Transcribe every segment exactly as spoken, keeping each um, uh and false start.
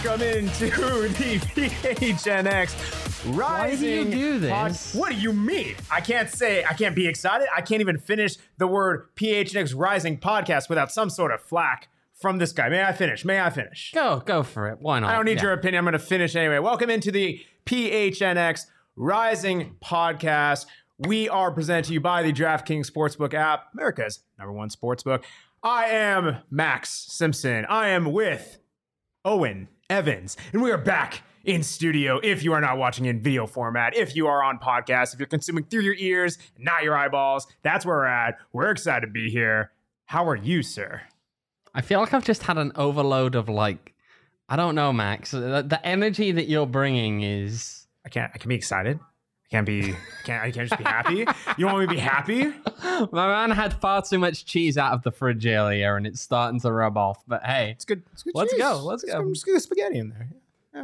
Welcome into the P H N X Rising. Why do you do this? Pod- what do you mean? I can't say, I can't be excited. I can't even finish the word P H N X Rising podcast without some sort of flack from this guy. May I finish? May I finish? Go, go for it. Why not? I don't need Yeah. your opinion. I'm going to finish anyway. Welcome into the P H N X Rising podcast. We are presented to you by the DraftKings Sportsbook app, America's number one sportsbook. I am Max Simpson. I am with Owen Evans, and we are back in studio. If you are not watching in video format, if you are on podcast, if you're consuming through your ears, not your eyeballs, that's where we're at. We're excited to be here. How are you, sir? I feel like I've just had an overload of like, I don't know, Max. The, the energy that you're bringing is. I can't. I can be excited. I can't be. I can't. I can't just be happy. You want me to be happy? My man had far too much cheese out of the fridge earlier, and it's starting to rub off. But hey, It's good. It's good. Let's cheese. go, let's go. I'm just gonna spaghetti in there.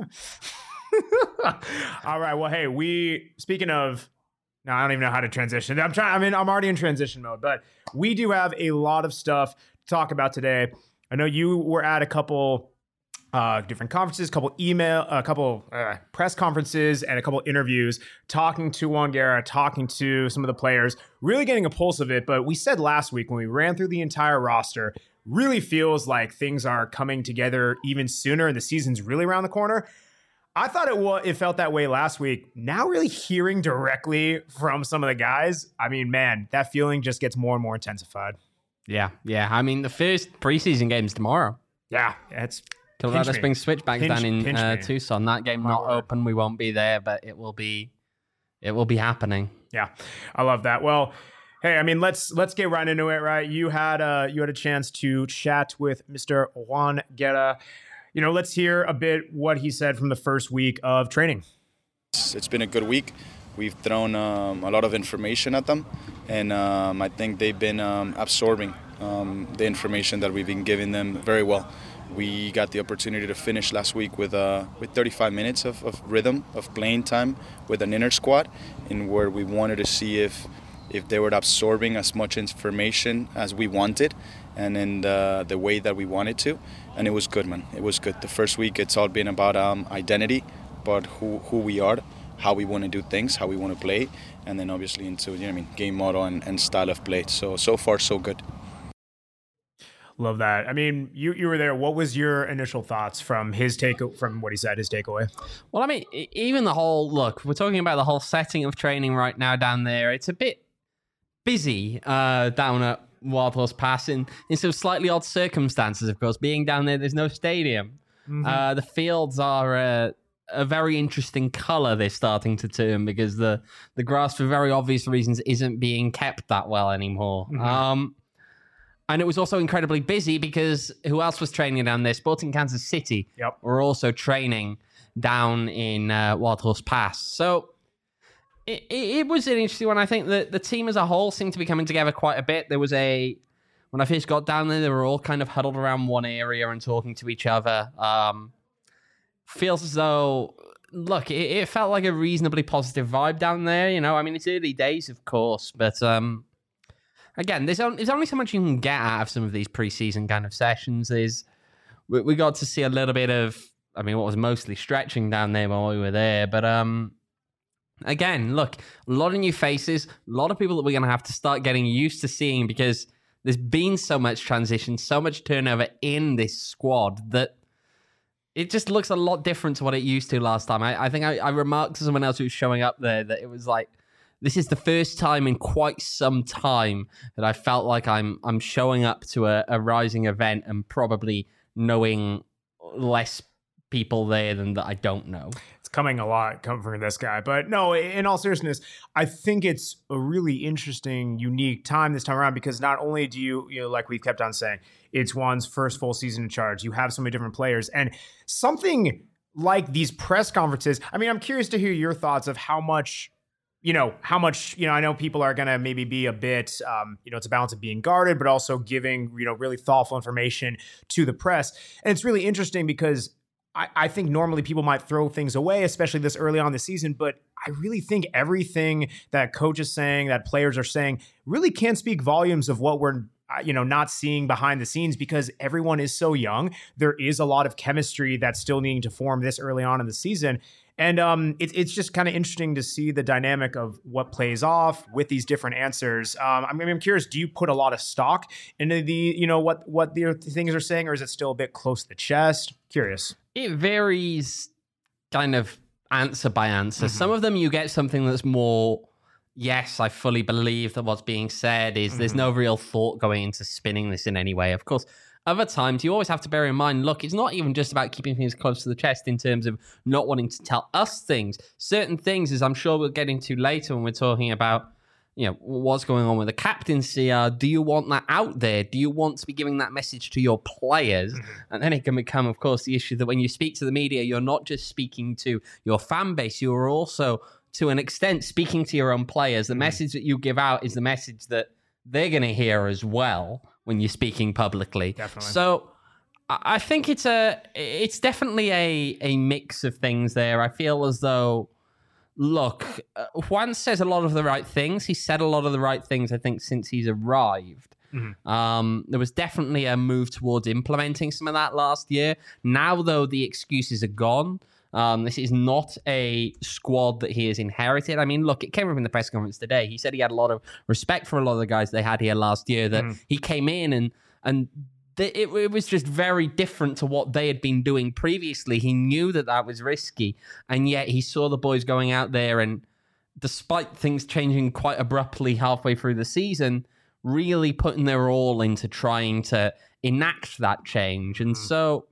Yeah. All right. Well, hey, we. Speaking of. No, I don't even know how to transition. I'm trying. I mean, I'm already in transition mode, but we do have a lot of stuff to talk about today. I know you were at a couple uh, different conferences, a couple email, a couple uh, press conferences, and a couple interviews, talking to Juan Guerra, talking to some of the players, really getting a pulse of it. But we said last week when we ran through the entire roster, really feels like things are coming together even sooner, and the season's really around the corner. I thought it was, it felt that way last week. Now really hearing directly from some of the guys, I mean, man, that feeling just gets more and more intensified. yeah, yeah. I mean, the first preseason game's tomorrow. Yeah, it's Colorado pinch me. Springs Switchbacks Pinch- down in pinch uh, me. Tucson. That game My not word. open. We won't be there, but it will be. It will be happening. Yeah, I love that. Well, hey, I mean, let's let's get right into it, right? You had uh you had a chance to chat with Mister Juan Guerra. You know, let's hear a bit what he said from the first week of training. It's been a good week. We've thrown um, a lot of information at them, and um, I think they've been um, absorbing um, the information that we've been giving them very well. We got the opportunity to finish last week with uh, with thirty-five minutes of, of rhythm, of playing time with an inner squad, in where we wanted to see if if they were absorbing as much information as we wanted, and in the, the way that we wanted to. And it was good, man. It was good. The first week, it's all been about um, identity, but who who we are, how we want to do things, how we want to play, and then obviously into, you know what I mean, game model and, and style of play. So, so far, so good. Love that. I mean, you you were there. What was your initial thoughts from his take from what he said, his takeaway? Well, I mean, e- even the whole look, we're talking about the whole setting of training right now down there. It's a bit busy uh, down at Wild Horse Pass in, in some slightly odd circumstances, of course. Being down there, there's no stadium. Mm-hmm. Uh, the fields are uh, a very interesting color they're starting to turn because the, the grass, for very obvious reasons, isn't being kept that well anymore. Mhm. Um, and it was also incredibly busy because who else was training down there? Sporting Kansas City Yep. were also training down in uh, Wild Horse Pass. So it, it, it was an interesting one. I think that the team as a whole seemed to be coming together quite a bit. There was a, when I first got down there, they were all kind of huddled around one area and talking to each other. Um, feels as though, look, it, it felt like a reasonably positive vibe down there. You know, I mean, it's early days, of course, but um, again, there's only, there's only so much you can get out of some of these preseason kind of sessions. There's, we, we got to see a little bit of, I mean, what was mostly stretching down there while we were there, but um. Again, look, a lot of new faces, a lot of people that we're going to have to start getting used to seeing because there's been so much transition, so much turnover in this squad that it just looks a lot different to what it used to last time. I, I think I, I remarked to someone else who was showing up there that it was like, this is the first time in quite some time that I felt like I'm I'm showing up to a, a Rising event and probably knowing less people there than that I don't know. Coming a lot coming from this guy. But no, in all seriousness, I think it's a really interesting, unique time this time around because not only do you, you know, like we've kept on saying, it's Juan's first full season in charge. You have so many different players and something like these press conferences. I mean, I'm curious to hear your thoughts of how much, you know, how much, you know, I know people are going to maybe be a bit, um, you know, it's a balance of being guarded, but also giving, you know, really thoughtful information to the press. And it's really interesting because I, I think normally people might throw things away, especially this early on in the season, but I really think everything that coach is saying, that players are saying, really can speak volumes of what we're uh, you know, not seeing behind the scenes because everyone is so young. There is a lot of chemistry that's still needing to form this early on in the season. And um, it, it's just kind of interesting to see the dynamic of what plays off with these different answers. Um, I mean, I'm curious, do you put a lot of stock into the, you know, what, what the things are saying, or is it still a bit close to the chest? Curious. It varies kind of answer by answer. Mm-hmm. Some of them you get something that's more, yes, I fully believe that what's being said is mm-hmm. there's no real thought going into spinning this in any way. Of course, other times, you always have to bear in mind, look, it's not even just about keeping things close to the chest in terms of not wanting to tell us things. Certain things, as I'm sure we'll get into later when we're talking about, you know, what's going on with the captaincy, are, do you want that out there? Do you want to be giving that message to your players? Mm-hmm. And then it can become, of course, the issue that when you speak to the media, you're not just speaking to your fan base, you are also, to an extent, speaking to your own players. The mm-hmm. message that you give out is the message that they're going to hear as well when you're speaking publicly. Definitely. So I think it's a, it's definitely a, a mix of things there. I feel as though, look, uh, Juan says a lot of the right things. He said a lot of the right things, I think, since he's arrived. Mm-hmm. Um, there was definitely a move towards implementing some of that last year. Now, though, the excuses are gone. Um, this is not a squad that he has inherited. I mean, look, it came up in the press conference today. He said he had a lot of respect for a lot of the guys they had here last year, that mm. he came in and and th- it, it was just very different to what they had been doing previously. He knew that that was risky, and yet he saw the boys going out there and, despite things changing quite abruptly halfway through the season, really putting their all into trying to enact that change. And mm. so,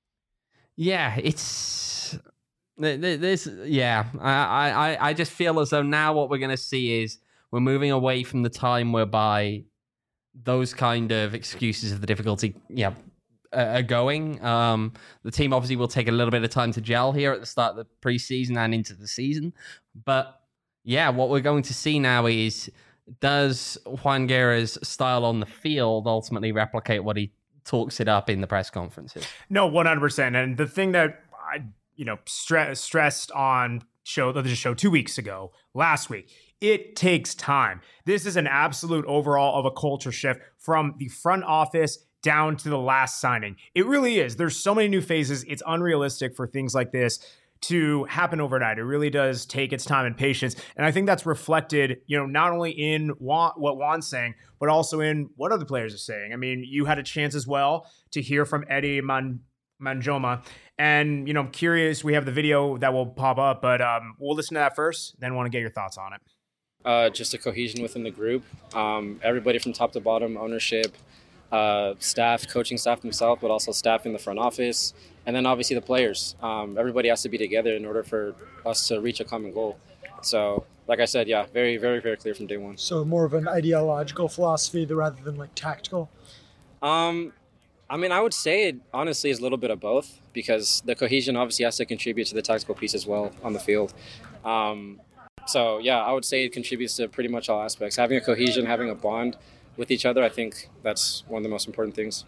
yeah, it's... This, yeah, I, I, I just feel as though now what we're going to see is we're moving away from the time whereby those kind of excuses of the difficulty, yeah, are going. Um, the team obviously will take a little bit of time to gel here at the start of the preseason and into the season. But yeah, what we're going to see now is, does Juan Guerra's style on the field ultimately replicate what he talks it up in the press conferences? No, one hundred percent. And the thing that I... you know, stre- stressed on show, the show two weeks ago, last week, it takes time. This is an absolute overall of a culture shift from the front office down to the last signing. It really is. There's so many new phases. It's unrealistic for things like this to happen overnight. It really does take its time and patience. And I think that's reflected, you know, not only in Juan, what Juan's saying, but also in what other players are saying. I mean, you had a chance as well to hear from Eddie Man- Manjoma. And, you know, I'm curious, we have the video that will pop up, but um, we'll listen to that first, then want to get your thoughts on it. Uh, just a cohesion within the group. Um, everybody from top to bottom, ownership, uh, staff, coaching staff themselves, but also staff in the front office, and then obviously the players. Um, everybody has to be together in order for us to reach a common goal. So, like I said, yeah, very, very, very clear from day one. So more of an ideological philosophy rather than like tactical? Um... I mean, I would say it honestly is a little bit of both, because the cohesion obviously has to contribute to the tactical piece as well on the field. Um, so, yeah, I would say it contributes to pretty much all aspects. Having a cohesion, having a bond with each other, I think that's one of the most important things.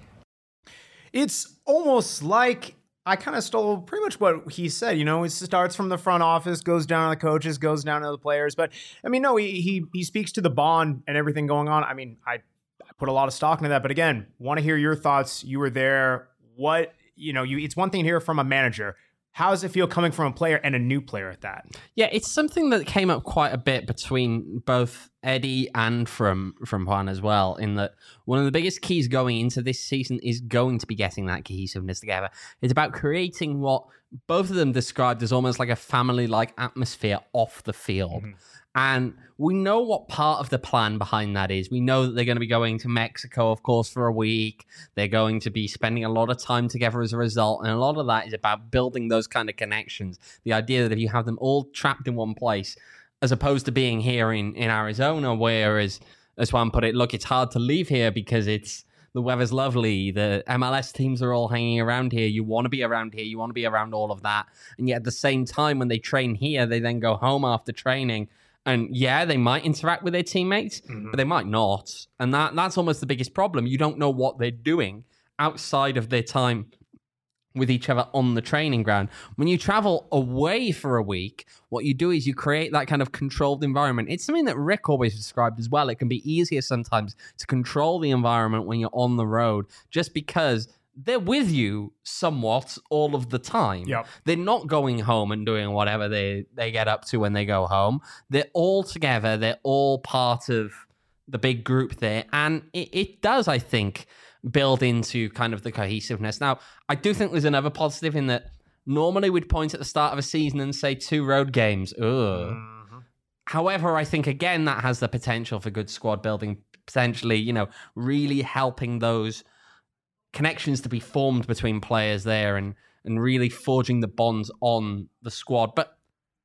It's almost like I kind of stole pretty much what he said. You know, it starts from the front office, goes down to the coaches, goes down to the players. But, I mean, no, he he, he speaks to the bond and everything going on. I mean, I... put a lot of stock into that. But again, want to hear your thoughts. You were there. What, you know, you, it's one thing to hear from a manager. How does it feel coming from a player and a new player at that? Yeah, it's something that came up quite a bit between both Eddie and from, from Juan as well, in that one of the biggest keys going into this season is going to be getting that cohesiveness together. It's about creating what both of them described as almost like a family-like atmosphere off the field. Mm-hmm. And we know what part of the plan behind that is. We know that they're going to be going to Mexico, of course, for a week. They're going to be spending a lot of time together as a result. And a lot of that is about building those kind of connections. The idea that if you have them all trapped in one place, as opposed to being here in, in Arizona, where, as, as Juan put it, look, it's hard to leave here because it's the weather's lovely. The M L S teams are all hanging around here. You want to be around here. You want to be around all of that. And yet at the same time, when they train here, they then go home after training. And yeah, they might interact with their teammates, mm-hmm. but they might not. And that that's almost the biggest problem. You don't know what they're doing outside of their time with each other on the training ground. When you travel away for a week, what you do is you create that kind of controlled environment. It's something that Rick always described as well. It can be easier sometimes to control the environment when you're on the road, just because they're with you somewhat all of the time. Yep. They're not going home and doing whatever they, they get up to when they go home. They're all together. They're all part of the big group there. And it, it does, I think, build into kind of the cohesiveness. Now, I do think there's another positive in that normally we'd point at the start of a season and say two road games. Ugh. Mm-hmm. However, I think, again, that has the potential for good squad building, potentially, you know, really helping those connections to be formed between players there and, and really forging the bonds on the squad. But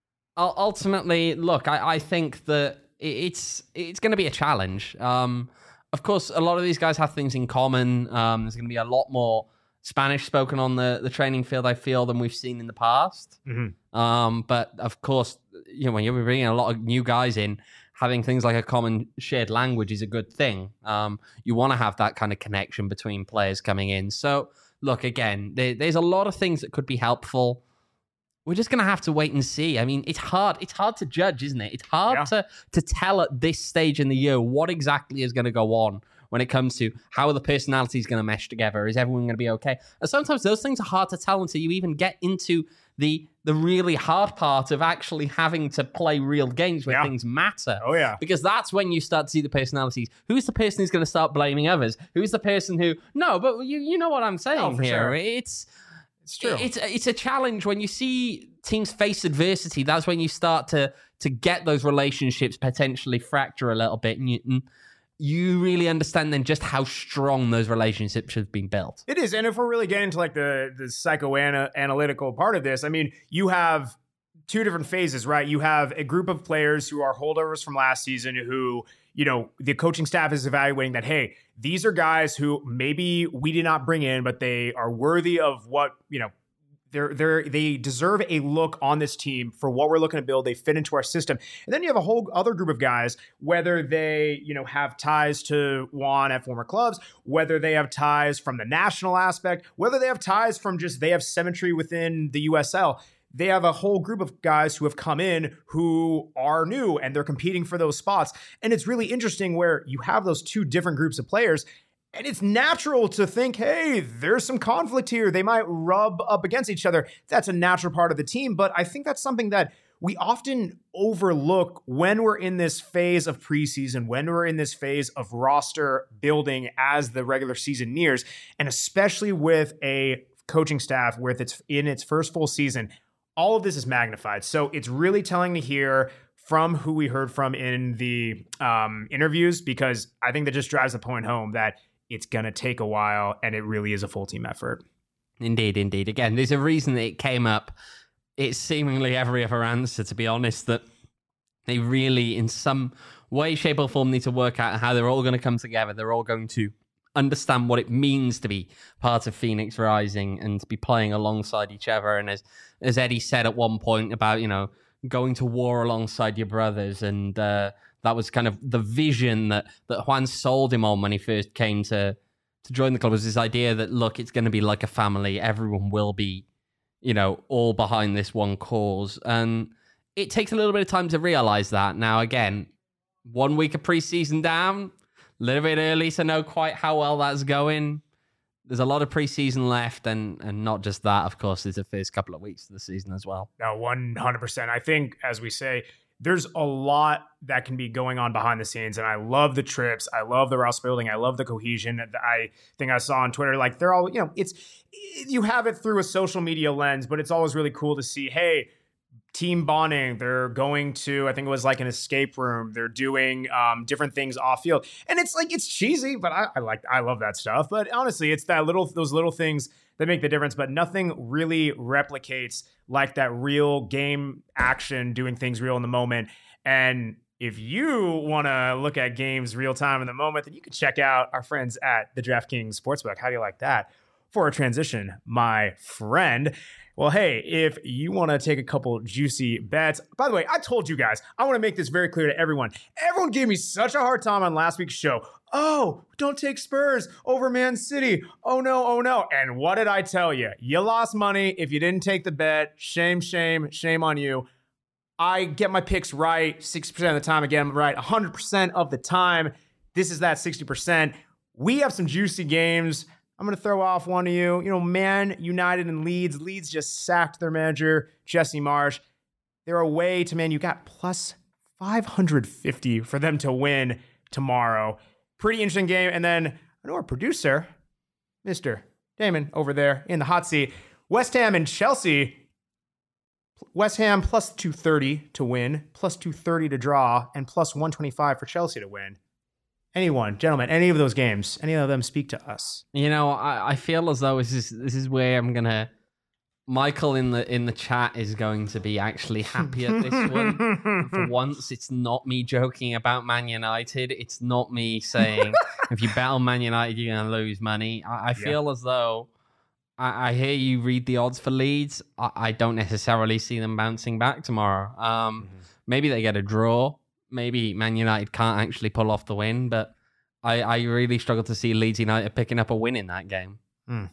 ultimately, look, I, I think that it's, it's going to be a challenge. Um, Of course, a lot of these guys have things in common. Um, there's going to be a lot more Spanish spoken on the, the training field, I feel, than we've seen in the past. Mm-hmm. Um, but of course, you know, when you're bringing a lot of new guys in, having things like a common shared language is a good thing. Um, you want to have that kind of connection between players coming in. So, look, again, there, there's a lot of things that could be helpful. We're just going to have to wait and see. I mean, it's hard. It's hard to judge, isn't it? It's hard yeah. to to tell at this stage in the year what exactly is going to go on when it comes to how are the personalities going to mesh together. Is everyone going to be okay? And sometimes those things are hard to tell until you even get into the the really hard part of actually having to play real games where yeah. things matter. Oh, yeah. Because that's when you start to see the personalities. Who's the person who's going to start blaming others? Who's the person who... No, but you, you know what I'm saying oh, for here. Sure. It's... It's true. It's it's a challenge when you see teams face adversity. That's when you start to to get those relationships potentially fracture a little bit, and you, and you really understand then just how strong those relationships have been built. It is, and if we're really getting into like the the psychoanalytical part of this, I mean, you have two different phases, right? You have a group of players who are holdovers from last season who, you know, the coaching staff is evaluating that, hey, these are guys who maybe we did not bring in, but they are worthy of what, you know, they're, they're, they deserve a look on this team for what we're looking to build. They fit into our system. And then you have a whole other group of guys, whether they, you know, have ties to Juan at former clubs, whether they have ties from the national aspect, whether they have ties from just they have symmetry within the U S L. They have a whole group of guys who have come in who are new and they're competing for those spots. And it's really interesting where you have those two different groups of players. And it's natural to think, hey, there's some conflict here. They might rub up against each other. That's a natural part of the team. But I think that's something that we often overlook when we're in this phase of preseason, when we're in this phase of roster building as the regular season nears, and especially with a coaching staff with its in its first full season. All of this is magnified. So it's really telling to hear from who we heard from in the um, interviews, because I think that just drives the point home that it's going to take a while and it really is a full team effort. Indeed, indeed. Again, there's a reason that it came up. It's seemingly every other answer, to be honest, that they really, in some way, shape or form, need to work out how they're all going to come together. They're all going to understand what it means to be part of Phoenix Rising and to be playing alongside each other. And as as Eddie said at one point about, you know, going to war alongside your brothers, and uh, that was kind of the vision that that Juan sold him on when he first came to to join the club, was this idea that, look, it's going to be like a family. Everyone will be, you know, all behind this one cause. And it takes a little bit of time to realize that. Now, again, one week of preseason down, a little bit early to know quite how well that's going. There's a lot of preseason left, and and not just that, of course, there's the first couple of weeks of the season as well. No, one hundred percent. I think, as we say, there's a lot that can be going on behind the scenes, and I love the trips. I love the roster building. I love the cohesion. I think I saw on Twitter, like, they're all, you know, it's, you have it through a social media lens, but it's always really cool to see, hey, team bonding. They're going to, I think it was like an escape room. They're doing um, different things off field, and it's like, it's cheesy, but I, I like, I love that stuff. But honestly, it's that little, those little things that make the difference. But nothing really replicates like that real game action, doing things real in the moment. And if you want to look at games real time in the moment, then you can check out our friends at the DraftKings Sportsbook. How do you like that? for a transition, my friend. Well, hey, if you want to take a couple juicy bets, by the way, I told you guys, I want to make this very clear to everyone. Everyone gave me such a hard time on last week's show. Oh, don't take Spurs over Man City. Oh no, oh no. And what did I tell you? You lost money if you didn't take the bet. Shame, shame, shame on you. I get my picks right sixty percent of the time. Again, I'm right one hundred percent of the time. This is that sixty percent. We have some juicy games. I'm going to throw off one of you. You know, Man United and Leeds. Leeds just sacked their manager, Jesse Marsh. They're away to Man. You got plus five hundred fifty for them to win tomorrow. Pretty interesting game. And then I know our producer, Mister Damon, over there in the hot seat. West Ham and Chelsea. West Ham plus two thirty to win, plus two thirty to draw, and plus one twenty-five for Chelsea to win. Anyone, gentlemen, any of those games, any of them speak to us? You know, I, I feel as though this is this is where I'm gonna. Michael in the in the chat is going to be actually happy at this one. For once, it's not me joking about Man United. It's not me saying if you bet on Man United, you're gonna lose money. I, I feel yeah. as though I, I hear you read the odds for Leeds. I, I don't necessarily see them bouncing back tomorrow. Um, mm-hmm. Maybe they get a draw. Maybe Man United can't actually pull off the win, but I, I really struggle to see Leeds United picking up a win in that game. Mm.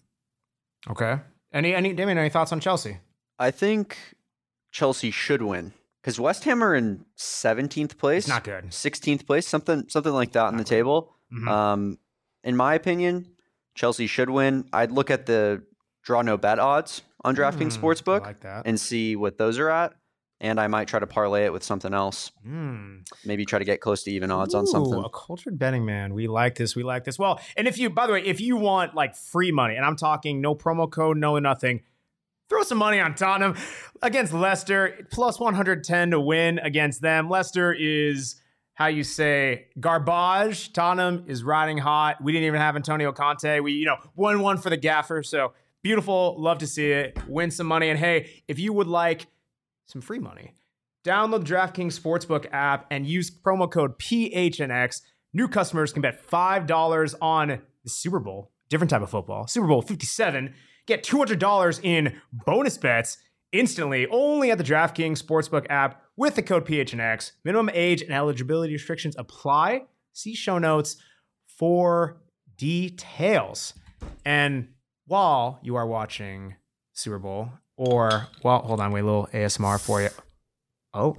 Okay. Any, any, Damien, any thoughts on Chelsea? I think Chelsea should win because West Ham are in seventeenth place. It's not good. sixteenth place, something, something like that not on the good. table. Mm-hmm. Um, in my opinion, Chelsea should win. I'd look at the draw no bet odds on DraftKings mm, Sportsbook like and see what those are at. And I might try to parlay it with something else. Mm. Maybe try to get close to even odds Ooh, on something. A cultured betting man. We like this. We like this. Well, and if you, by the way, if you want like free money, and I'm talking no promo code, no nothing, throw some money on Tottenham against Leicester. Plus one hundred ten to win against them. Leicester is, how you say, garbage. Tottenham is riding hot. We didn't even have Antonio Conte. We, you know, one one for the gaffer. So beautiful. Love to see it. Win some money. And hey, if you would like some free money, download the DraftKings Sportsbook app and use promo code P H N X. New customers can bet five dollars on the Super Bowl, different type of football, Super Bowl fifty-seven. Get two hundred dollars in bonus bets instantly only at the DraftKings Sportsbook app with the code P H N X. Minimum age and eligibility restrictions apply. See show notes for details. And while you are watching Super Bowl, or, well, hold on, wait, a little A S M R for you. Oh,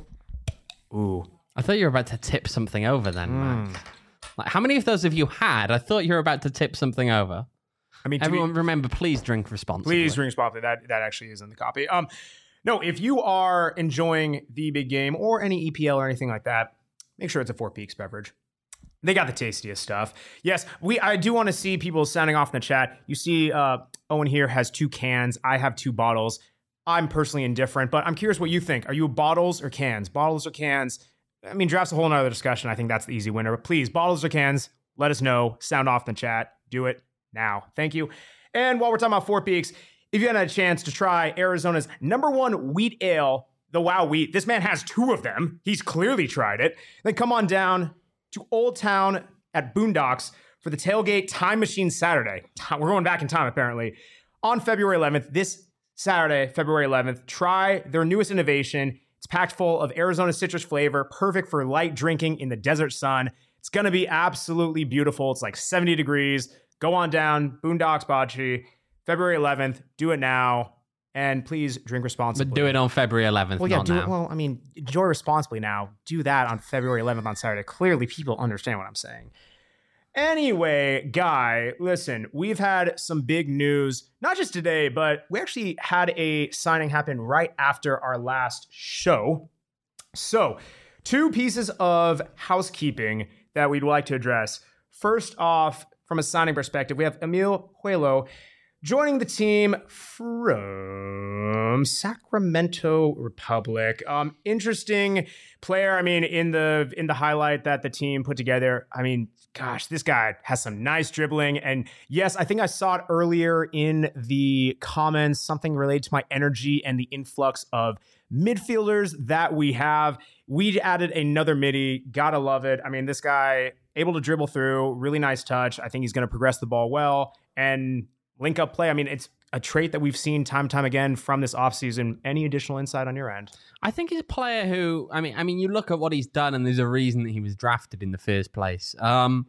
ooh. I thought you were about to tip something over then, Mm. man. Like, how many of those have you had? I thought you were about to tip something over. I mean, to Everyone be- remember, please drink responsibly. Please drink responsibly. That that actually is in the copy. Um, no, if you are enjoying the big game or any E P L or anything like that, make sure it's a Four Peaks beverage. They got the tastiest stuff. Yes, we. I do want to see people sounding off in the chat. You see, uh, Owen here has two cans. I have two bottles. I'm personally indifferent, but I'm curious what you think. Are you bottles or cans? Bottles or cans? I mean, draft's a whole nother discussion. I think that's the easy winner. But please, bottles or cans, let us know. Sound off in the chat. Do it now. Thank you. And while we're talking about Four Peaks, if you had a chance to try Arizona's number one wheat ale, the Wow Wheat, this man has two of them. He's clearly tried it. Then come on down to Old Town at Boondocks for the Tailgate Time Machine Saturday. We're going back in time, apparently. On February eleventh, this Saturday, February eleventh, try their newest innovation. It's packed full of Arizona citrus flavor, perfect for light drinking in the desert sun. It's going to be absolutely beautiful. It's like seventy degrees. Go on down, Boondocks Bocce, February eleventh. Do it now. And please drink responsibly. But do it on February eleventh, well, yeah, not do now. It, well, I mean, enjoy responsibly now. Do that on February eleventh on Saturday. Clearly, people understand what I'm saying. Anyway, Guy, listen, we've had some big news, not just today, but we actually had a signing happen right after our last show. So, two pieces of housekeeping that we'd like to address. First off, from a signing perspective, we have Emil Huelo joining the team from Sacramento Republic. Um, interesting player. I mean, in the in the highlight that the team put together, I mean, gosh, this guy has some nice dribbling. And yes, I think I saw it earlier in the comments, something related to my energy and the influx of midfielders that we have. We added another midi. Gotta love it. I mean, this guy able to dribble through, really nice touch. I think he's going to progress the ball well. And link up play. I mean, it's a trait that we've seen time and time again from this offseason. Any additional insight on your end? I think he's a player who, I mean, I mean, you look at what he's done, and there's a reason that he was drafted in the first place. Um,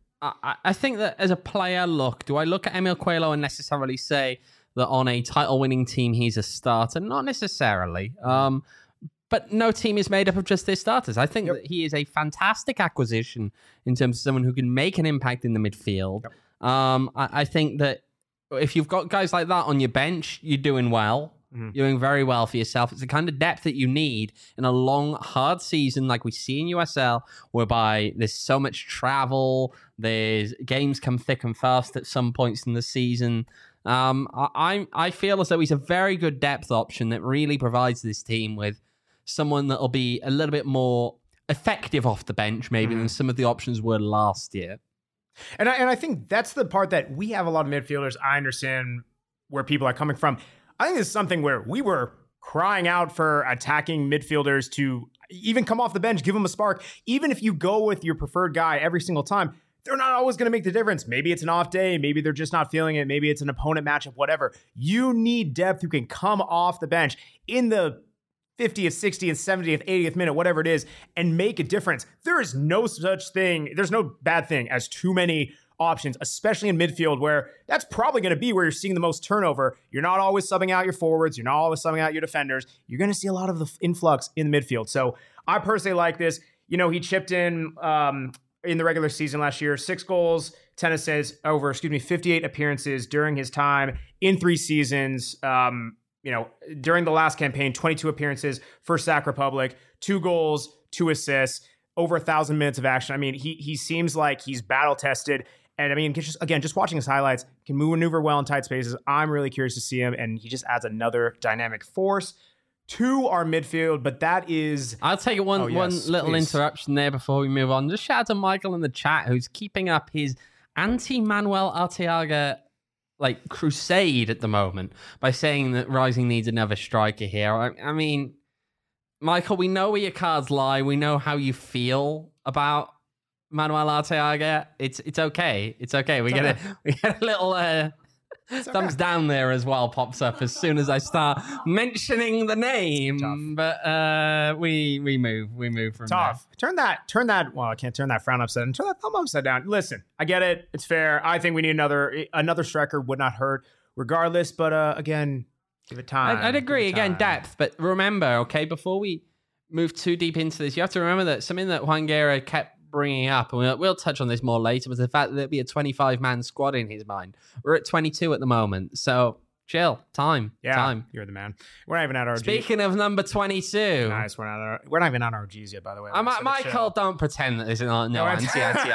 I, I think that as a player, look, do I look at Emil Coelho and necessarily say that on a title-winning team he's a starter? Not necessarily. Um, but no team is made up of just their starters. I think yep. that he is a fantastic acquisition in terms of someone who can make an impact in the midfield. Yep. Um, I, I think that if you've got guys like that on your bench, you're doing well. Mm-hmm. You're doing very well for yourself. It's the kind of depth that you need in a long, hard season like we see in U S L, whereby there's so much travel, there's games come thick and fast at some points in the season. Um, I, I feel as though he's a very good depth option that really provides this team with someone that'll be a little bit more effective off the bench, maybe, mm-hmm. than some of the options were last year. And I, and I think that's the part that we have a lot of midfielders. I understand where people are coming from. I think this is something where we were crying out for attacking midfielders to even come off the bench, give them a spark. Even if you go with your preferred guy every single time, they're not always going to make the difference. Maybe it's an off day. Maybe they're just not feeling it. Maybe it's an opponent matchup, whatever. You need depth who can come off the bench in the fiftieth, sixtieth, seventieth, eightieth minute, whatever it is, and make a difference. There is no such thing. There's no bad thing as too many options, especially in midfield, where that's probably going to be where you're seeing the most turnover. You're not always subbing out your forwards. You're not always subbing out your defenders. You're going to see a lot of the influx in the midfield. So I personally like this. You know, he chipped in um, in the regular season last year, six goals, ten assists over, excuse me, fifty-eight appearances during his time in three seasons. Um, you know, during the last campaign, twenty-two appearances for Sac Republic, two goals, two assists, over a thousand minutes of action. I mean, he he seems like he's battle tested. And I mean, just again, just watching his highlights, can move maneuver well in tight spaces. I'm really curious to see him, and he just adds another dynamic force to our midfield. But that is, I'll take one oh, yes, one little please. interruption there before we move on. Just shout out to Michael in the chat, who's keeping up his anti-Manuel Arteaga like crusade at the moment by saying that Rising needs another striker here. I, I mean, Michael, we know where your cards lie. We know how you feel about Manuel Arteaga. It's it's okay. It's okay. We get a we get a little uh, thumbs down there as well. Pops up as soon as I start mentioning the name. Tough. But uh, we we move we move from Tough. there. Turn that turn that. Well, I can't turn that frown upside down. Turn that thumb upside down. Listen, I get it. It's fair. I think we need another another striker. Would not hurt, regardless. But uh, again, give it time. I, I'd agree. Give it Again, time. depth. But remember, okay, before we move too deep into this, you have to remember that something that Juan Guerra kept bringing up, and we'll, we'll touch on this more later, was the fact that there'd be a twenty-five man squad in his mind. We're at twenty-two at the moment, so chill, time, Yeah, time. you're the man. We're not even at our Speaking of number twenty-two, nice. We're not. Our, we're not even on our G's yet, by the way. I'm, So Michael, chill. don't pretend that there's no, no No, anti anti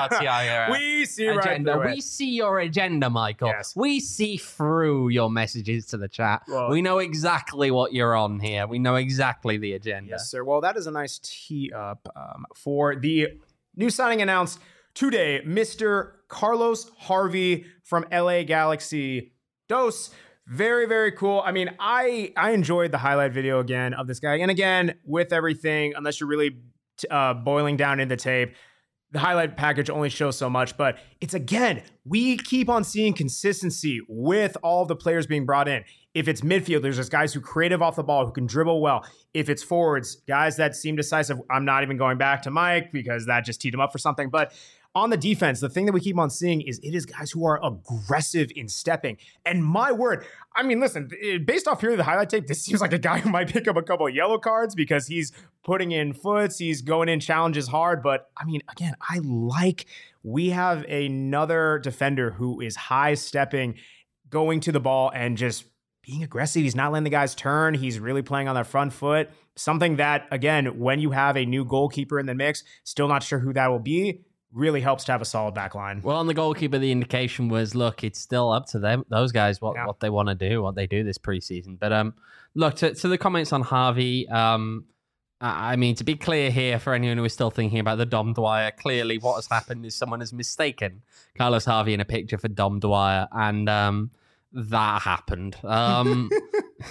anti We see right agenda. through We it. see your agenda, Michael. Yes. We see through your messages to the chat. Well- we know exactly what you're on here. We know exactly the agenda. Yes, sir. Well, that is a nice tee up um, for the new signing announced today, Mister Carlos Harvey from L A Galaxy. Dos. Very, very cool. I mean, I I enjoyed the highlight video again of this guy. And again, with everything, unless you're really uh, boiling down in the tape, the highlight package only shows so much. But it's, again, we keep on seeing consistency with all of the players being brought in. If it's midfielders, there's guys who are creative off the ball, who can dribble well. If it's forwards, guys that seem decisive. I'm not even going back to Mike because that just teed him up for something. But on the defense, the thing that we keep on seeing is it is guys who are aggressive in stepping. And my word, I mean, listen, based off purely the highlight tape, this seems like a guy who might pick up a couple of yellow cards because he's putting in foots, he's going in challenges hard. But I mean, again, I like we have another defender who is high stepping, going to the ball and just being aggressive. He's not letting the guys turn. He's really playing on their front foot. Something that, again, when you have a new goalkeeper in the mix, still not sure who that will be, really helps to have a solid back line. Well, on the goalkeeper, the indication was, look, it's still up to them, those guys, what, Yeah. what they want to do, what they do this preseason. But um, look, to, to the comments on Harvey, um, I I mean, to be clear here, for anyone who is still thinking about the Dom Dwyer, clearly what has happened is someone has mistaken Carlos Harvey in a picture for Dom Dwyer, and um, that happened. Um,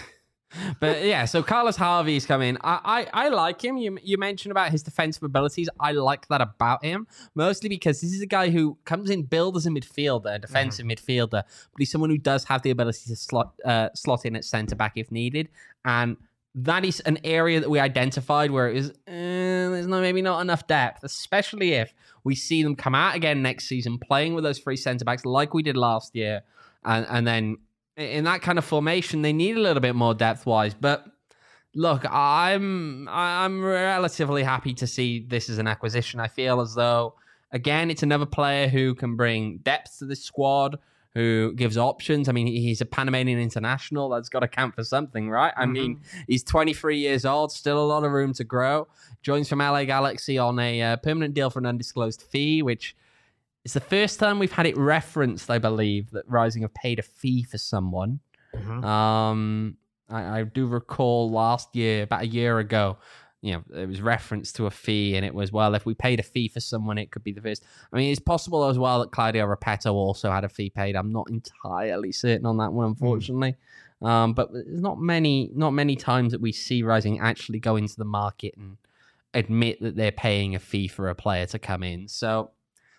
But yeah, so Carlos Harvey's come in. I, I, I like him. You you mentioned about his defensive abilities. I like that about him, mostly because this is a guy who comes in billed as a midfielder, a defensive mm-hmm. midfielder, but he's someone who does have the ability to slot uh, slot in at centre back if needed, and that is an area that we identified where it is eh, there's no maybe not enough depth, especially if we see them come out again next season playing with those three centre backs like we did last year, and and then. In that kind of formation, they need a little bit more depth-wise. But look, I'm I'm relatively happy to see this as an acquisition. I feel as though, again, it's another player who can bring depth to the squad, who gives options. I mean, he's a Panamanian international. That's got to count for something, right? I mm-hmm. mean, he's twenty-three years old, still a lot of room to grow. Joins from L A Galaxy on a uh, permanent deal for an undisclosed fee, which... It's the first time we've had it referenced, I believe, that Rising have paid a fee for someone. Mm-hmm. Um, I, I do recall last year, about a year ago, you know, it was referenced to a fee, and it was, well, if we paid a fee for someone, it could be the first. I mean, it's possible as well that Claudio Repetto also had a fee paid. I'm not entirely certain on that one, unfortunately. Mm. Um, but there's not many, not many times that we see Rising actually go into the market and admit that they're paying a fee for a player to come in. So.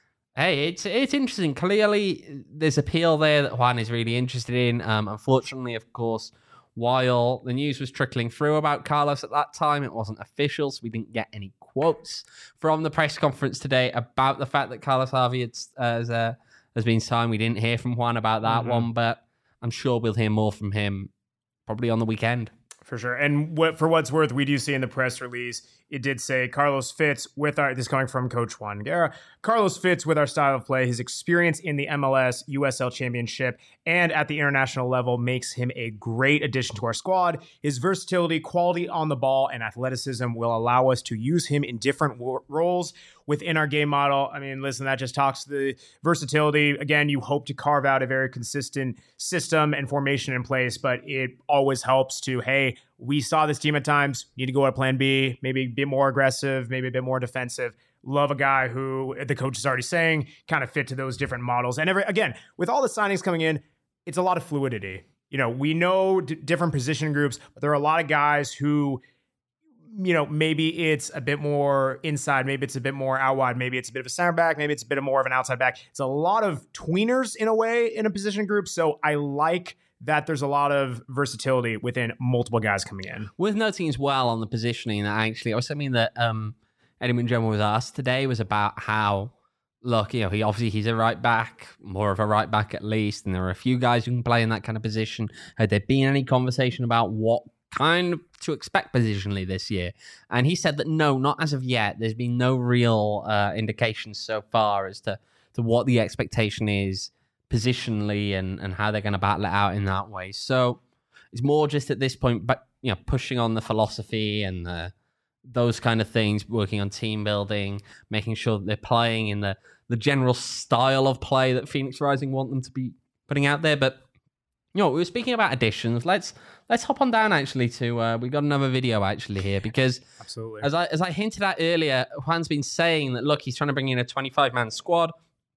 Hey, it's it's interesting. Clearly, there's appeal there that Juan is really interested in. Um, unfortunately, of course, while the news was trickling through about Carlos at that time, it wasn't official, so we didn't get any quotes from the press conference today about the fact that Carlos Harvey had, uh, has, uh, has been signed. We didn't hear from Juan about that mm-hmm. one, but I'm sure we'll hear more from him probably on the weekend. For sure. And what, for what's worth, we do see in the press release, it did say Carlos fits with our, this is coming from Coach Juan Guerra, Carlos fits with our style of play. His experience in the M L S, U S L Championship, and at the international level makes him a great addition to our squad. His versatility, quality on the ball, and athleticism will allow us to use him in different w- roles within our game model. I mean, listen, that just talks to the versatility. Again, you hope to carve out a very consistent system and formation in place, but it always helps to, hey, we saw this team at times, need to go at plan B, maybe a bit more aggressive, maybe a bit more defensive. Love a guy who the coach is already saying kind of fit to those different models. And every, again, with all the signings coming in, it's a lot of fluidity. You know, we know d- different position groups, but there are a lot of guys who, you know, maybe it's a bit more inside, maybe it's a bit more out wide, maybe it's a bit of a center back, maybe it's a bit more of an outside back. It's a lot of tweeners in a way in a position group. So I like that there's a lot of versatility within multiple guys coming in. Worth noting as well on the positioning that actually, I was something that um, Eddie Munjoma was asked today was about how, look, you know, he obviously he's a right back, more of a right back at least, and there are a few guys who can play in that kind of position. Had there been any conversation about what kind of to expect positionally this year? And he said that no, not as of yet. There's been no real uh, indications so far as to, to what the expectation is positionally and, and how they're going to battle it out in that way. So it's more just at this point, but you know, pushing on the philosophy and the, those kind of things, working on team building, making sure that they're playing in the, the general style of play that Phoenix Rising want them to be putting out there. But you know, we were speaking about additions. Let's let's hop on down actually to uh, we got another video actually here because absolutely as I as I hinted at earlier, Juan's been saying that look, he's trying to bring in a twenty-five man squad.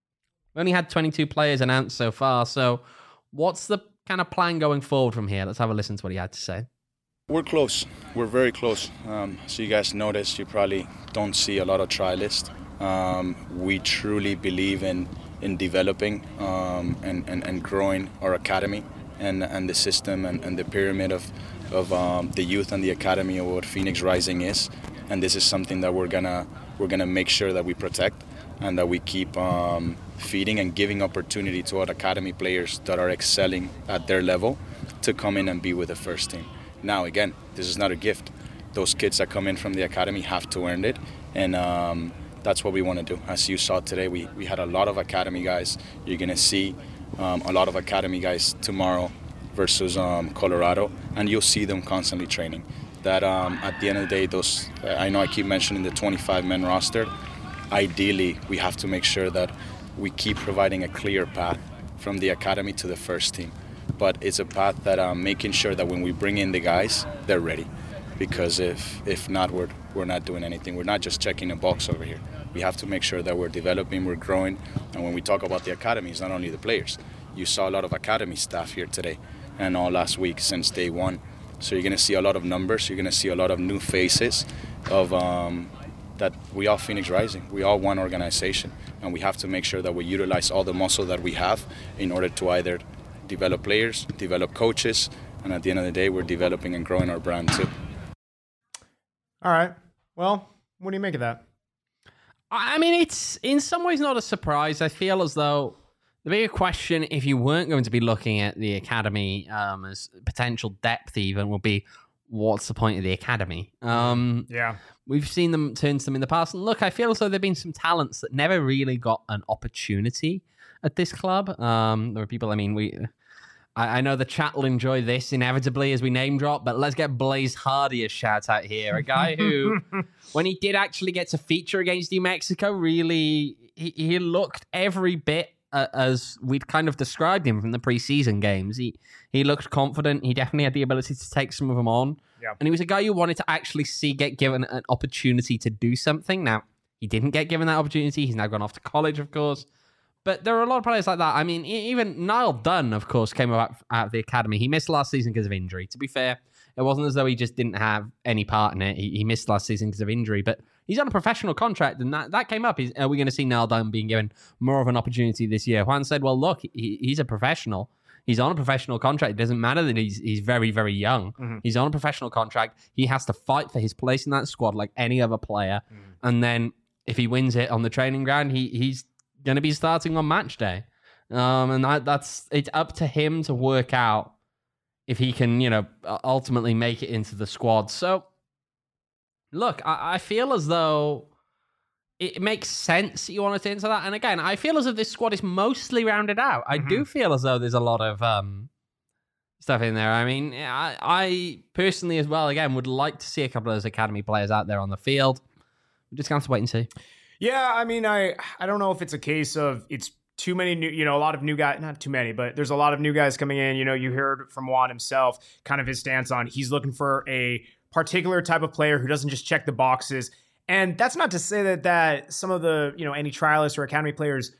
We only had twenty-two players announced so far. So what's the kind of plan going forward from here? Let's have a listen to what he had to say. We're close. We're very close. Um, so you guys noticed, you probably don't see a lot of trialists. Um, we truly believe in in developing um, and, and, and growing our academy and, and the system and, and the pyramid of, of um, the youth and the academy of what Phoenix Rising is. And this is something that we're gonna we're gonna make sure that we protect and that we keep um, feeding and giving opportunity to our academy players that are excelling at their level to come in and be with the first team. Now, again, this is not a gift. Those kids that come in from the academy have to earn it, and um, that's what we want to do. As you saw today, we, we had a lot of academy guys. You're going to see um, a lot of academy guys tomorrow versus um, Colorado, and you'll see them constantly training. That um, at the end of the day, those I know I keep mentioning the twenty-five man roster. Ideally, we have to make sure that we keep providing a clear path from the academy to the first team. But it's a path that um, making sure that when we bring in the guys, they're ready. Because if if not, we're, we're not doing anything. We're not just checking a box over here. We have to make sure that we're developing, we're growing. And when we talk about the academy, it's not only the players. You saw a lot of academy staff here today and all last week since day one. So you're going to see a lot of numbers. You're going to see a lot of new faces of um, that we are Phoenix Rising. We are one organization, and we have to make sure that we utilize all the muscle that we have in order to either develop players, develop coaches, and at the end of the day, we're developing and growing our brand too. All right. Well, what do you make of that? I mean, it's in some ways not a surprise. I feel as though the bigger question, if you weren't going to be looking at the academy um, as potential depth even, would be, what's the point of the academy? Um, yeah. We've seen them turn to them in the past. And look, I feel as though there have been some talents that never really got an opportunity at this club. Um, there are people, I mean, we... I, I know the chat will enjoy this inevitably as we name drop, but let's get Blaze Hardy a shout out here. A guy who, when he did actually get to feature against New Mexico, really, he, he looked every bit uh, as we'd kind of described him from the preseason games. He he looked confident. He definitely had the ability to take some of them on. Yeah. And he was a guy you wanted to actually see get given an opportunity to do something. Now, he didn't get given that opportunity. He's now gone off to college, of course. But there are a lot of players like that. I mean, even Niall Dunn, of course, came out, out of the academy. He missed last season because of injury. To be fair, it wasn't as though he just didn't have any part in it. He, he missed last season because of injury. But he's on a professional contract, and that, that came up. Is, are we going to see Niall Dunn being given more of an opportunity this year? Juan said, well, look, he, he's a professional. He's on a professional contract. It doesn't matter that he's he's very, very young. Mm-hmm. He's on a professional contract. He has to fight for his place in that squad like any other player. Mm. And then if he wins it on the training ground, he he's going to be starting on match day. Um, and that, that's it's up to him to work out if he can, you know, ultimately make it into the squad. So, look, I, I feel as though it makes sense you want to enter that. And again, I feel as if this squad is mostly rounded out. I mm-hmm. do feel as though there's a lot of um, stuff in there. I mean, I, I personally as well, again, would like to see a couple of those academy players out there on the field. We're just going to have to wait and see. Yeah, I mean, I I don't know if it's a case of it's too many new, you know, a lot of new guys, not too many, but there's a lot of new guys coming in. You know, you heard from Juan himself, kind of his stance on he's looking for a particular type of player who doesn't just check the boxes. And that's not to say that that some of the, you know, any trialists or academy players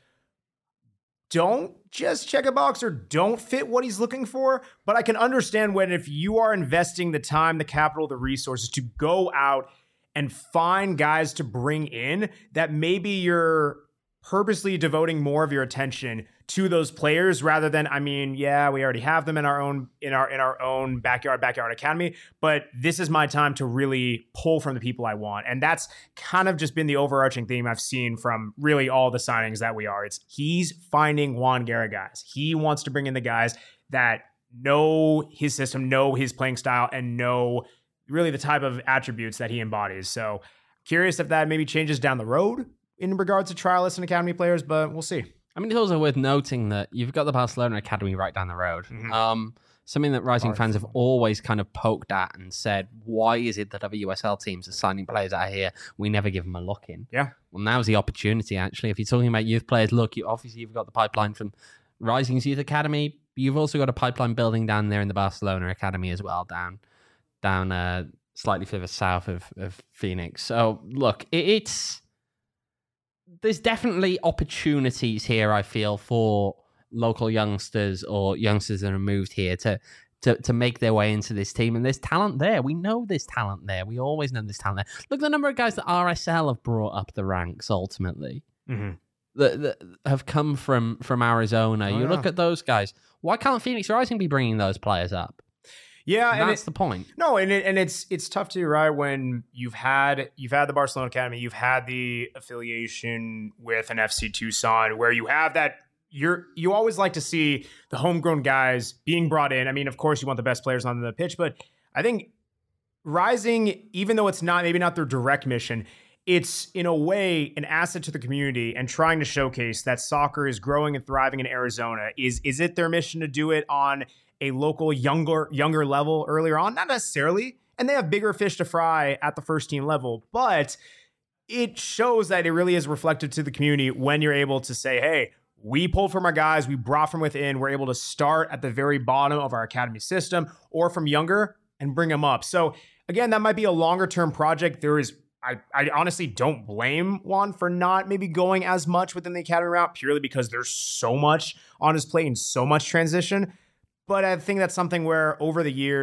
don't just check a box or don't fit what he's looking for. But I can understand when if you are investing the time, the capital, the resources to go out and find guys to bring in that maybe you're purposely devoting more of your attention to those players rather than, I mean, yeah, we already have them in our own in our in our own backyard backyard academy, but this is my time to really pull from the people I want. And that's kind of just been the overarching theme I've seen from really all the signings that we are. It's he's finding Juan Guerra guys. He wants to bring in the guys that know his system, know his playing style, and know really the type of attributes that he embodies. So curious if that maybe changes down the road in regards to trialists and academy players, but we'll see. I mean, it's also worth noting that you've got the Barcelona Academy right down the road. Mm-hmm. Um, something that Rising Barcelona fans have always kind of poked at and said, why is it that other U S L teams are signing players out here? We never give them a look in. Yeah. Well, now's the opportunity, actually. If you're talking about youth players, look, you, obviously you've got the pipeline from Rising's Youth Academy. You've also got a pipeline building down there in the Barcelona Academy as well, down down uh, slightly further south of, of Phoenix. So, look, it, it's... there's definitely opportunities here, I feel, for local youngsters or youngsters that are moved here to, to, to make their way into this team. And there's talent there. We know there's talent there. We always know there's talent there. Look at the number of guys that R S L have brought up the ranks, ultimately, mm-hmm. that, that have come from, from Arizona. Oh, you yeah. look at those guys. Why can't Phoenix Rising be bringing those players up? Yeah, and and that's it, the point. No, and it, and it's it's tough too, right? When you've had you've had the Barcelona Academy, you've had the affiliation with an F C Tucson, where you have that. You're you always like to see the homegrown guys being brought in. I mean, of course, you want the best players on the pitch, but I think Rising, even though it's not maybe not their direct mission, it's in a way an asset to the community and trying to showcase that soccer is growing and thriving in Arizona. Is is it their mission to do it on a local younger younger level earlier on? Not necessarily. And they have bigger fish to fry at the first team level, but it shows that it really is reflective to the community when you're able to say, hey, we pulled from our guys, we brought from within, we're able to start at the very bottom of our academy system or from younger and bring them up. So again, that might be a longer term project. There is I, I honestly don't blame Juan for not maybe going as much within the academy route purely because there's so much on his plate and so much transition. But I think that's something where over the years,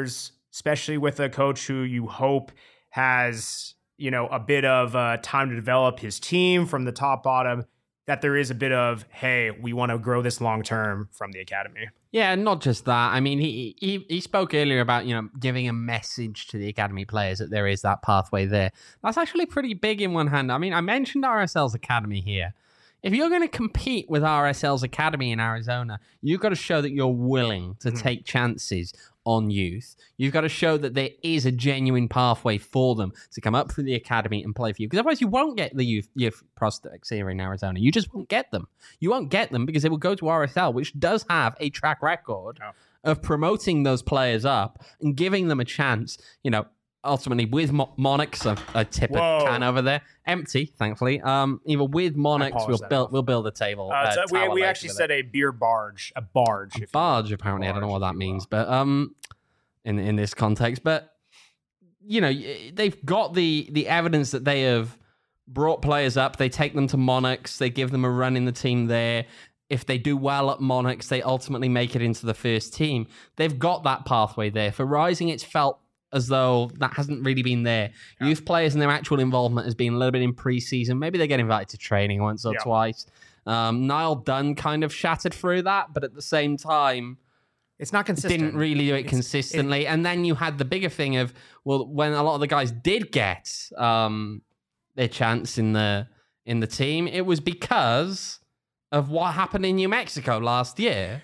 especially with a coach who you hope has, you know, a bit of uh, time to develop his team from the top bottom, that there is a bit of, hey, we want to grow this long term from the academy. Yeah, not just that. I mean, he, he he spoke earlier about, you know, giving a message to the academy players that there is that pathway there. That's actually pretty big in one hand. I mean, I mentioned R S L's academy here. If you're going to compete with R S L's academy in Arizona, you've got to show that you're willing to mm-hmm. take chances on youth. You've got to show that there is a genuine pathway for them to come up through the academy and play for you. Because otherwise you won't get the youth, youth prospects here in Arizona. You just won't get them. You won't get them because they will go to R S L, which does have a track record oh. of promoting those players up and giving them a chance, you know, ultimately with Mo- Monarchs, a, a tip of can over there, empty, thankfully. Um, either with Monarchs, we'll build off. we'll build a table. Uh, uh, so we we actually said it. a beer barge, a barge, a barge. Apparently, barge, I don't know what that means, but um, in in this context, but you know, they've got the the evidence that they have brought players up. They take them to Monarchs. They give them a run in the team there. If they do well at Monarchs, they ultimately make it into the first team. They've got that pathway there. For Rising, it's felt as though that hasn't really been there. Yeah. Youth players and their actual involvement has been a little bit in preseason. Maybe they get invited to training once or yeah. twice. Um, Niall Dunn kind of shattered through that, but at the same time, it's not consistent. Didn't really do it it's, consistently. It, and then you had the bigger thing of, well, when a lot of the guys did get um, their chance in the in the team, it was because of what happened in New Mexico last year.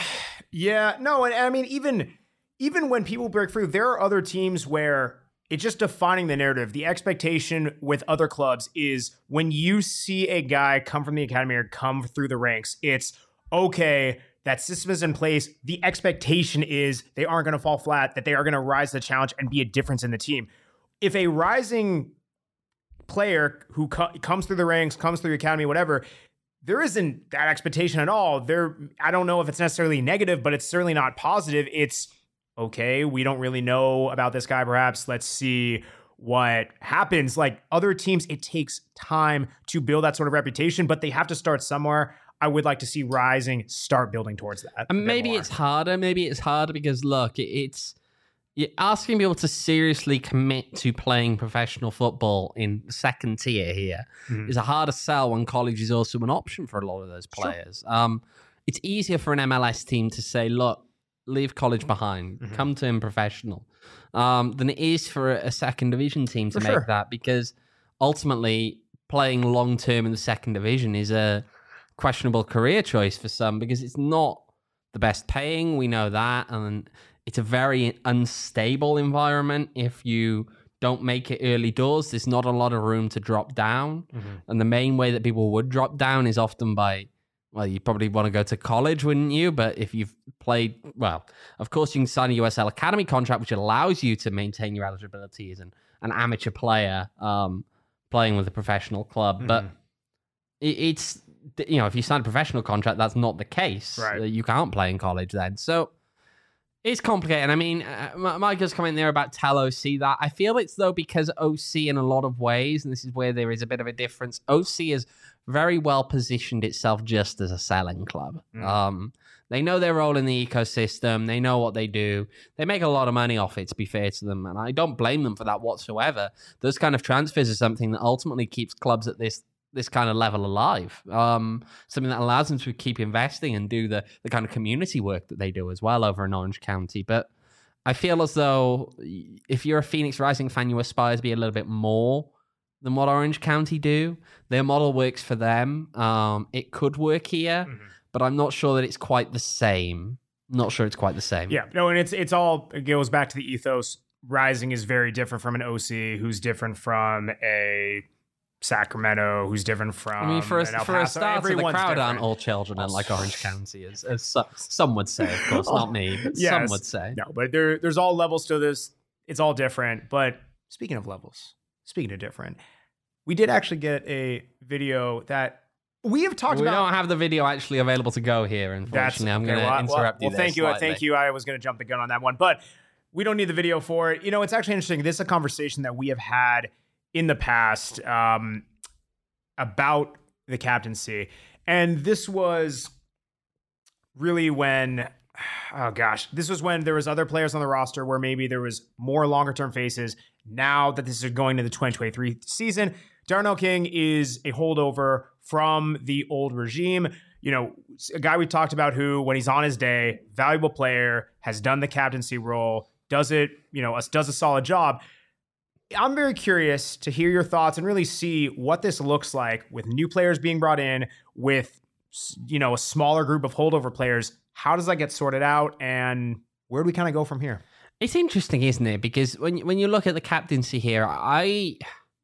Yeah, no, and I mean, even... Even when people break through, there are other teams where it's just defining the narrative. The expectation with other clubs is when you see a guy come from the academy or come through the ranks, it's okay, that system is in place. The expectation is they aren't going to fall flat, that they are going to rise to the challenge and be a difference in the team. If a rising player who co- comes through the ranks, comes through the academy, whatever, there isn't that expectation at all. There, I don't know if it's necessarily negative, but it's certainly not positive. It's, okay, we don't really know about this guy, perhaps. Let's see what happens. Like other teams, it takes time to build that sort of reputation, but they have to start somewhere. I would like to see Rising start building towards that. And maybe it's harder. Maybe it's harder because, look, it's you're asking people to seriously commit to playing professional football in the second tier here mm-hmm. is a harder sell when college is also an option for a lot of those players. Sure. Um, it's easier for an M L S team to say, look, leave college behind, mm-hmm. come to him professional, um, than it is for a second division team to for make sure. that, because ultimately playing long term in the second division is a questionable career choice for some because it's not the best paying. We know that, and it's a very unstable environment. If you don't make it early doors, there's not a lot of room to drop down, mm-hmm. and the main way that people would drop down is often by, well, you probably want to go to college, wouldn't you? But if you've played, well, of course you can sign a U S L Academy contract, which allows you to maintain your eligibility as an, an amateur player um, playing with a professional club. Mm-hmm. But it, it's, you know, if you sign a professional contract, that's not the case. Right. You can't play in college then. So it's complicated. I mean, uh, Micah's comment there about tell O C that. I feel it's, though, because O C in a lot of ways, and this is where there is a bit of a difference, O C is very well positioned itself just as a selling club. Mm. Um, they know their role in the ecosystem. They know what they do. They make a lot of money off it, to be fair to them, and I don't blame them for that whatsoever. Those kind of transfers are something that ultimately keeps clubs at this this kind of level alive. Um, something that allows them to keep investing and do the, the kind of community work that they do as well over in Orange County. But I feel as though if you're a Phoenix Rising fan, you aspire to be a little bit more than what Orange County do. Their model works for them. Um, it could work here, mm-hmm. but I'm not sure that it's quite the same. Not sure it's quite the same. Yeah, no, and it's it's all, it goes back to the ethos. Rising is very different from an O C, who's different from a Sacramento, who's different from. I mean, for a, for for a start, the crowd different. aren't all children, and like Orange County, as, as so, some would say, of course, not me, but yes. some would say. No, but there, there's all levels to this. It's all different. But speaking of levels, speaking of different, we did actually get a video that we have talked we about. We don't have the video actually available to go here, unfortunately. I'm going to well, interrupt well, you. Well, thank you. Slightly. Thank you. I was going to jump the gun on that one, but we don't need the video for it. You know, it's actually interesting. This is a conversation that we have had in the past um, about the captaincy. And this was really when oh gosh, this was when there was other players on the roster where maybe there was more longer term faces. Now that this is going to the twenty twenty-three season, Darnell King is a holdover from the old regime. You know, a guy we talked about who, when he's on his day, valuable player, has done the captaincy role, does it, you know, does a solid job. I'm very curious to hear your thoughts and really see what this looks like with new players being brought in, with, you know, a smaller group of holdover players. How does that get sorted out, and where do we kind of go from here? It's interesting, isn't it? Because when when you look at the captaincy here, I,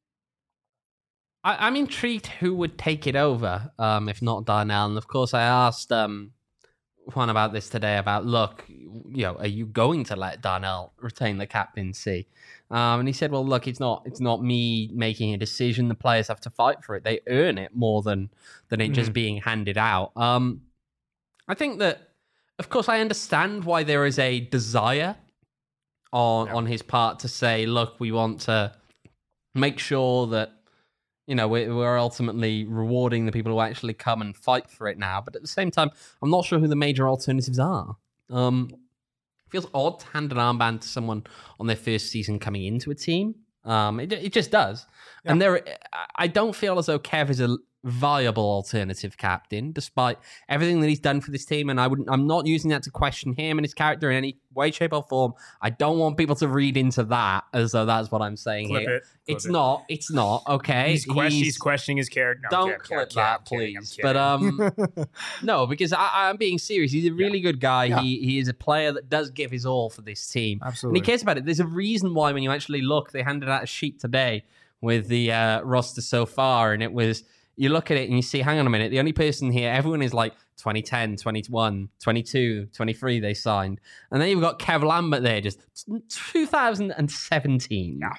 I I'm intrigued who would take it over, um, if not Darnell. And of course, I asked um, Juan about this today. About look, you know, are you going to let Darnell retain the captaincy? Um, and he said, well, look, it's not it's not me making a decision. The players have to fight for it. They earn it more than than it mm-hmm. just being handed out. Um, I think that, of course, I understand why there is a desire on yeah. on his part to say, look, we want to make sure that, you know, we're, we're ultimately rewarding the people who actually come and fight for it now. But at the same time, I'm not sure who the major alternatives are. Um, it feels odd to hand an armband to someone on their first season coming into a team. Um, it, it just does. Yeah. And there, I don't feel as though Kev is a viable alternative captain, despite everything that he's done for this team. And I wouldn't, I'm not using that to question him and his character in any way, shape, or form. I don't want people to read into that as though that's what I'm saying Clip here. It. Clip it's it. not. It's not. Okay. He's, question, he's, he's questioning his character. No, don't kidding, clip kidding, that, kidding, please. But um, no, because I, I'm being serious. He's a really yeah. good guy. Yeah. He he is a player that does give his all for this team. Absolutely. And he cares about it. There's a reason why when you actually look, they handed out a sheet today with the uh, roster so far, and it was, you look at it and you see, hang on a minute, the only person here, everyone is like twenty ten, twenty-one, twenty-two, twenty-three they signed. And then you've got Kev Lambert there, just two thousand seventeen. Yeah.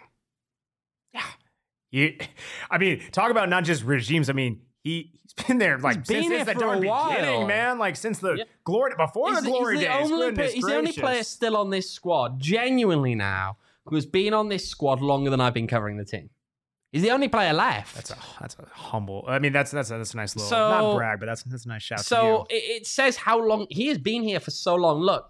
Yeah. You, I mean, talk about not just regimes. I mean, he, he's been there like he's been since, since the darn beginning, man. Like since the yeah. glory, before he's, the glory he's the days. Only Goodness he's gracious. the only player still on this squad, genuinely now, who has been on this squad longer than I've been covering the team. He's the only player left. That's a that's a humble. I mean, that's that's a, that's a nice little so, not brag, but that's that's a nice shout. So to you. It, it says how long he has been here for so long. Look,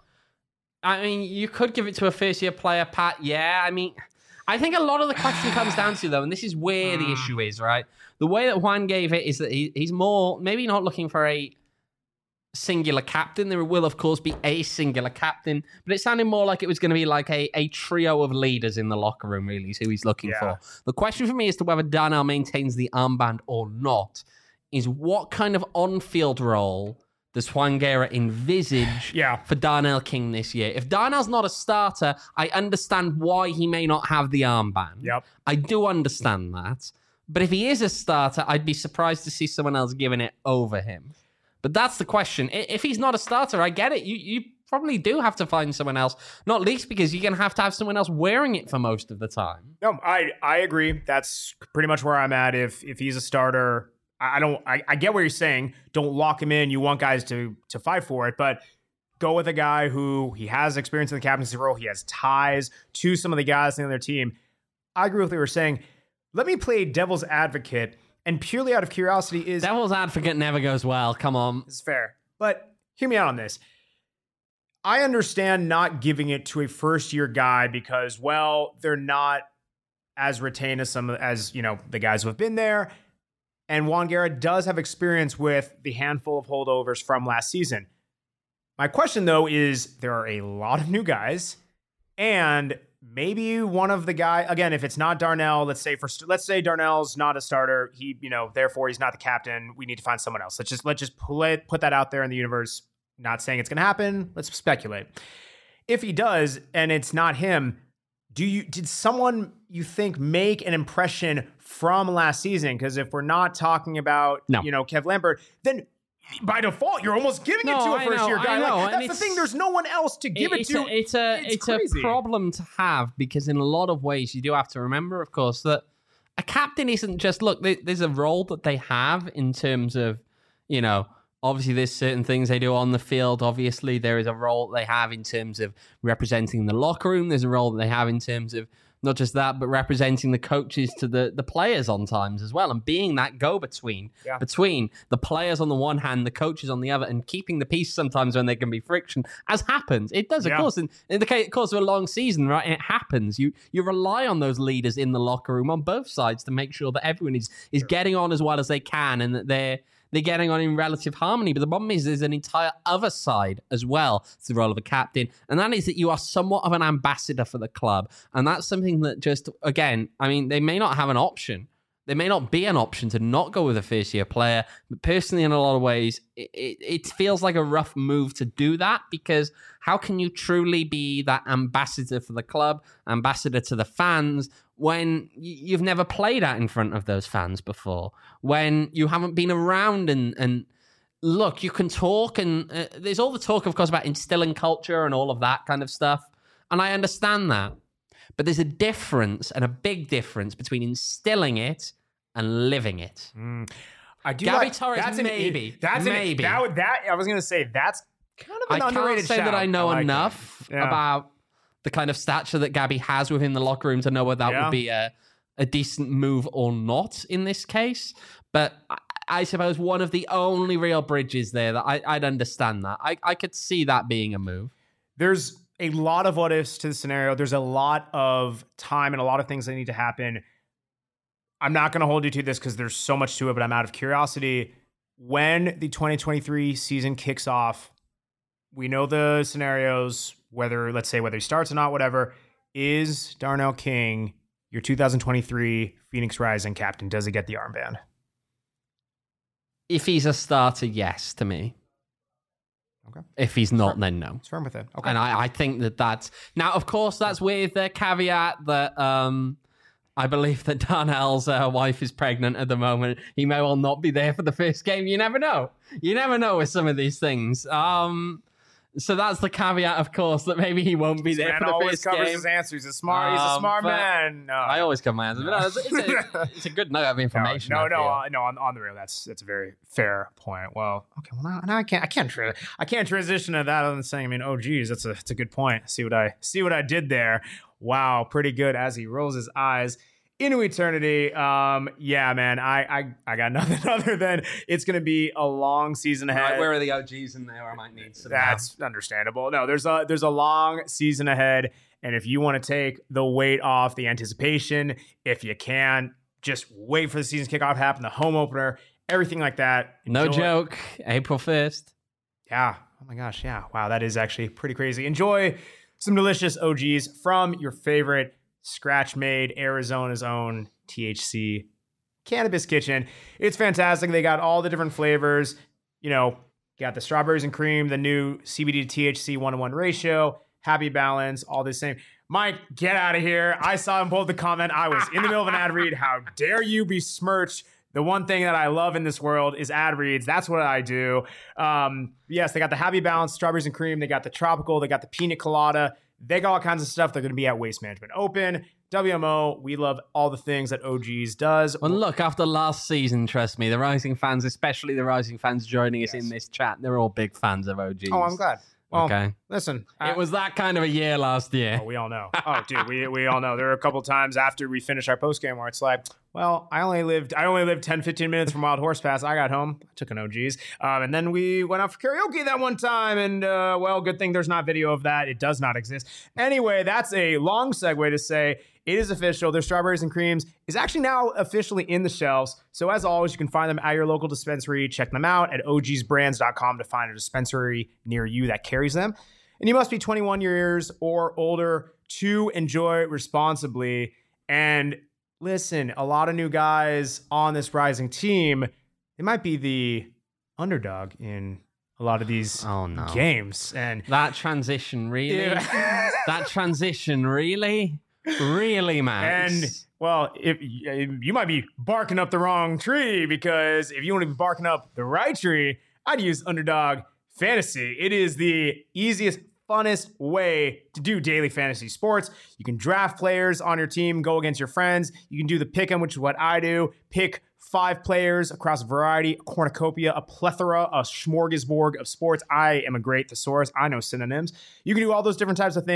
I mean, you could give it to a first year player, Pat. Yeah, I mean, I think a lot of the question comes down to though, and this is where the issue is, right? The way that Juan gave it is that he, he's more maybe not looking for a singular captain. There will, of course, be a singular captain, but it sounded more like it was going to be like a, a trio of leaders in the locker room, really, is who he's looking yeah. for. The question for me as to whether Darnell maintains the armband or not is what kind of on-field role does Juan Guerra envisage yeah. for Darnell King this year? If Darnell's not a starter, I understand why he may not have the armband. Yep. I do understand that. But if he is a starter, I'd be surprised to see someone else giving it over him. But that's the question. If he's not a starter, I get it. You you probably do have to find someone else, not least because you're going to have to have someone else wearing it for most of the time. No, I I agree. That's pretty much where I'm at. If if he's a starter, I don't. I, I get what you're saying. Don't lock him in. You want guys to to fight for it, but go with a guy who he has experience in the captaincy role. He has ties to some of the guys on their team. I agree with what you were saying. Let me play devil's advocate. And purely out of curiosity is... Devil's advocate never goes well. Come on. It's fair. But hear me out on this. I understand not giving it to a first-year guy because, well, they're not as retained as some as, you know, the guys who have been there. And Juan Guerra does have experience with the handful of holdovers from last season. My question, though, is there are a lot of new guys, and maybe one of the guy, again, if it's not Darnell, let's say for let's say Darnell's not a starter, he, you know, therefore he's not the captain. We need to find someone else. Let's just let's just play, put that out there in the universe. Not saying it's going to happen. Let's speculate. If he does, and it's not him, do you did someone you think make an impression from last season? Because if we're not talking about no. you know Kev Lambert, then by default, you're almost giving no, it to a I first-year know, guy. I know. Like, that's and the thing. There's no one else to give it, it to. A, it's a it's, it's a problem to have because in a lot of ways you do have to remember, of course, that a captain isn't just look. There's a role that they have in terms of, you know, obviously there's certain things they do on the field. Obviously, there is a role that they have in terms of representing the locker room. There's a role that they have in terms of Not just that, but representing the coaches to the, the players on times as well, and being that go-between Yeah. between the players on the one hand, the coaches on the other, and keeping the peace sometimes when there can be friction, as happens. It does, of Yeah. course. In, in the case, course of a long season, right? It happens. You you rely on those leaders in the locker room on both sides to make sure that everyone is is getting on as well as they can, and that they're they're getting on in relative harmony. But the problem is there's an entire other side as well to the role of a captain, and that is that you are somewhat of an ambassador for the club. And that's something that just, again, I mean, they may not have an option. There may not be an option to not go with a first-year player. But personally, in a lot of ways, it, it, it feels like a rough move to do that, because how can you truly be that ambassador for the club, ambassador to the fans, when you've never played out in front of those fans before, when you haven't been around and, and look, you can talk, and uh, there's all the talk, of course, about instilling culture and all of that kind of stuff. And I understand that. But there's a difference, and a big difference, between instilling it and living it. Mm. I do Gabby like, Torres, that's an- maybe. That's an- maybe. that, would- that I was going to say, that's kind of an I underrated can't say shout. that I know like that. enough Yeah. about the kind of stature that Gabby has within the locker room to know whether that Yeah. would be a, a decent move or not in this case. But I, I suppose one of the only real bridges there that I, I'd understand that. I, I could see that being a move. There's a lot of what ifs to the scenario. There's a lot of time and a lot of things that need to happen. I'm not going to hold you to this because there's so much to it, but I'm out of curiosity. When the twenty twenty-three season kicks off, we know the scenarios, whether, let's say, whether he starts or not, whatever. Is Darnell King your two thousand twenty-three Phoenix Rising captain? Does he get the armband? If he's a starter, yes, to me. Okay. If he's not, then no. It's firm with it. Okay. And I, I think that that's... Now, of course, that's with the caveat that um, I believe that Darnell's uh, wife is pregnant at the moment. He may well not be there for the first game. You never know. You never know with some of these things. Um, so that's the caveat, of course, that maybe he won't be This there man for the always first covers game. his answers. He's a smart, he's a Um, smart but man. No. I always cover my answers. But no, it's, it's, a, it's a good note of information. No, I no, feel. no, uh, no. On, on the real, that's that's a very fair point. Well, okay. Well, now, now I can't, I can't, tra- I can't transition to that other than saying, I mean, oh, geez, that's a, that's a good point. See what I see what I did there. Wow, pretty good. As he rolls his eyes into eternity. Um, yeah, man. I, I, I got nothing other than it's going to be a long season ahead. Right, where are the O Gs in there? I might need some. That's understandable. No, there's a there's a long season ahead, and if you want to take the weight off the anticipation, if you can, just wait for the season kickoff to happen, the home opener, everything like that. No Enjoy- joke. April first. Yeah. Oh my gosh. Yeah. Wow. That is actually pretty crazy. Enjoy some delicious O Gs from your favorite scratch made Arizona's own T H C Cannabis Kitchen. It's fantastic. They got all the different flavors. You know, got the strawberries and cream, the new C B D to T H C one to one ratio, happy balance, all the same. Mike, get out of here. I saw him pull up the comment. I was in the middle of an ad read. How dare you besmirch the one thing that I love in this world is ad reads. That's what I do. Um, yes, they got the happy balance, strawberries and cream. They got the tropical. They got the pina colada. They got all kinds of stuff. They're going to be at Waste Management Open. W M O, we love all the things that O Gs does. Well, look, after last season, trust me, the Rising fans, especially the Rising fans joining us Yes. in this chat, they're all big fans of O Gs. Oh, I'm glad. Well, Okay. listen. It was that kind of a year last year. Oh, we all know. Oh, dude, we we all know. There are a couple times after we finish our post game where it's like, well, I only lived I only lived ten, fifteen minutes from Wild Horse Pass. I got home, I took an O Gs, um, and then we went out for karaoke that one time. And uh, well, good thing there's not video of that. It does not exist. Anyway, that's a long segue to say it is official. Their strawberries and creams is actually now officially in the shelves. So as always, you can find them at your local dispensary. Check them out at O Gs brands dot com to find a dispensary near you that carries them. And you must be twenty-one years or older to enjoy responsibly. And listen, a lot of new guys on this Rising team, they might be the underdog in a lot of these Oh, no. games. And That transition, really? Yeah. That transition, really? Really, Max? And well, if you might be barking up the wrong tree, because if you want to be barking up the right tree, I'd use Underdog Fantasy. It is the easiest, funnest way to do daily fantasy sports. You can draft players on your team, go against your friends. You can do the pick 'em, which is what I do. Pick five players across a variety, a cornucopia, a plethora, a smorgasbord of sports. I am a great thesaurus. I know synonyms. You can do all those different types of things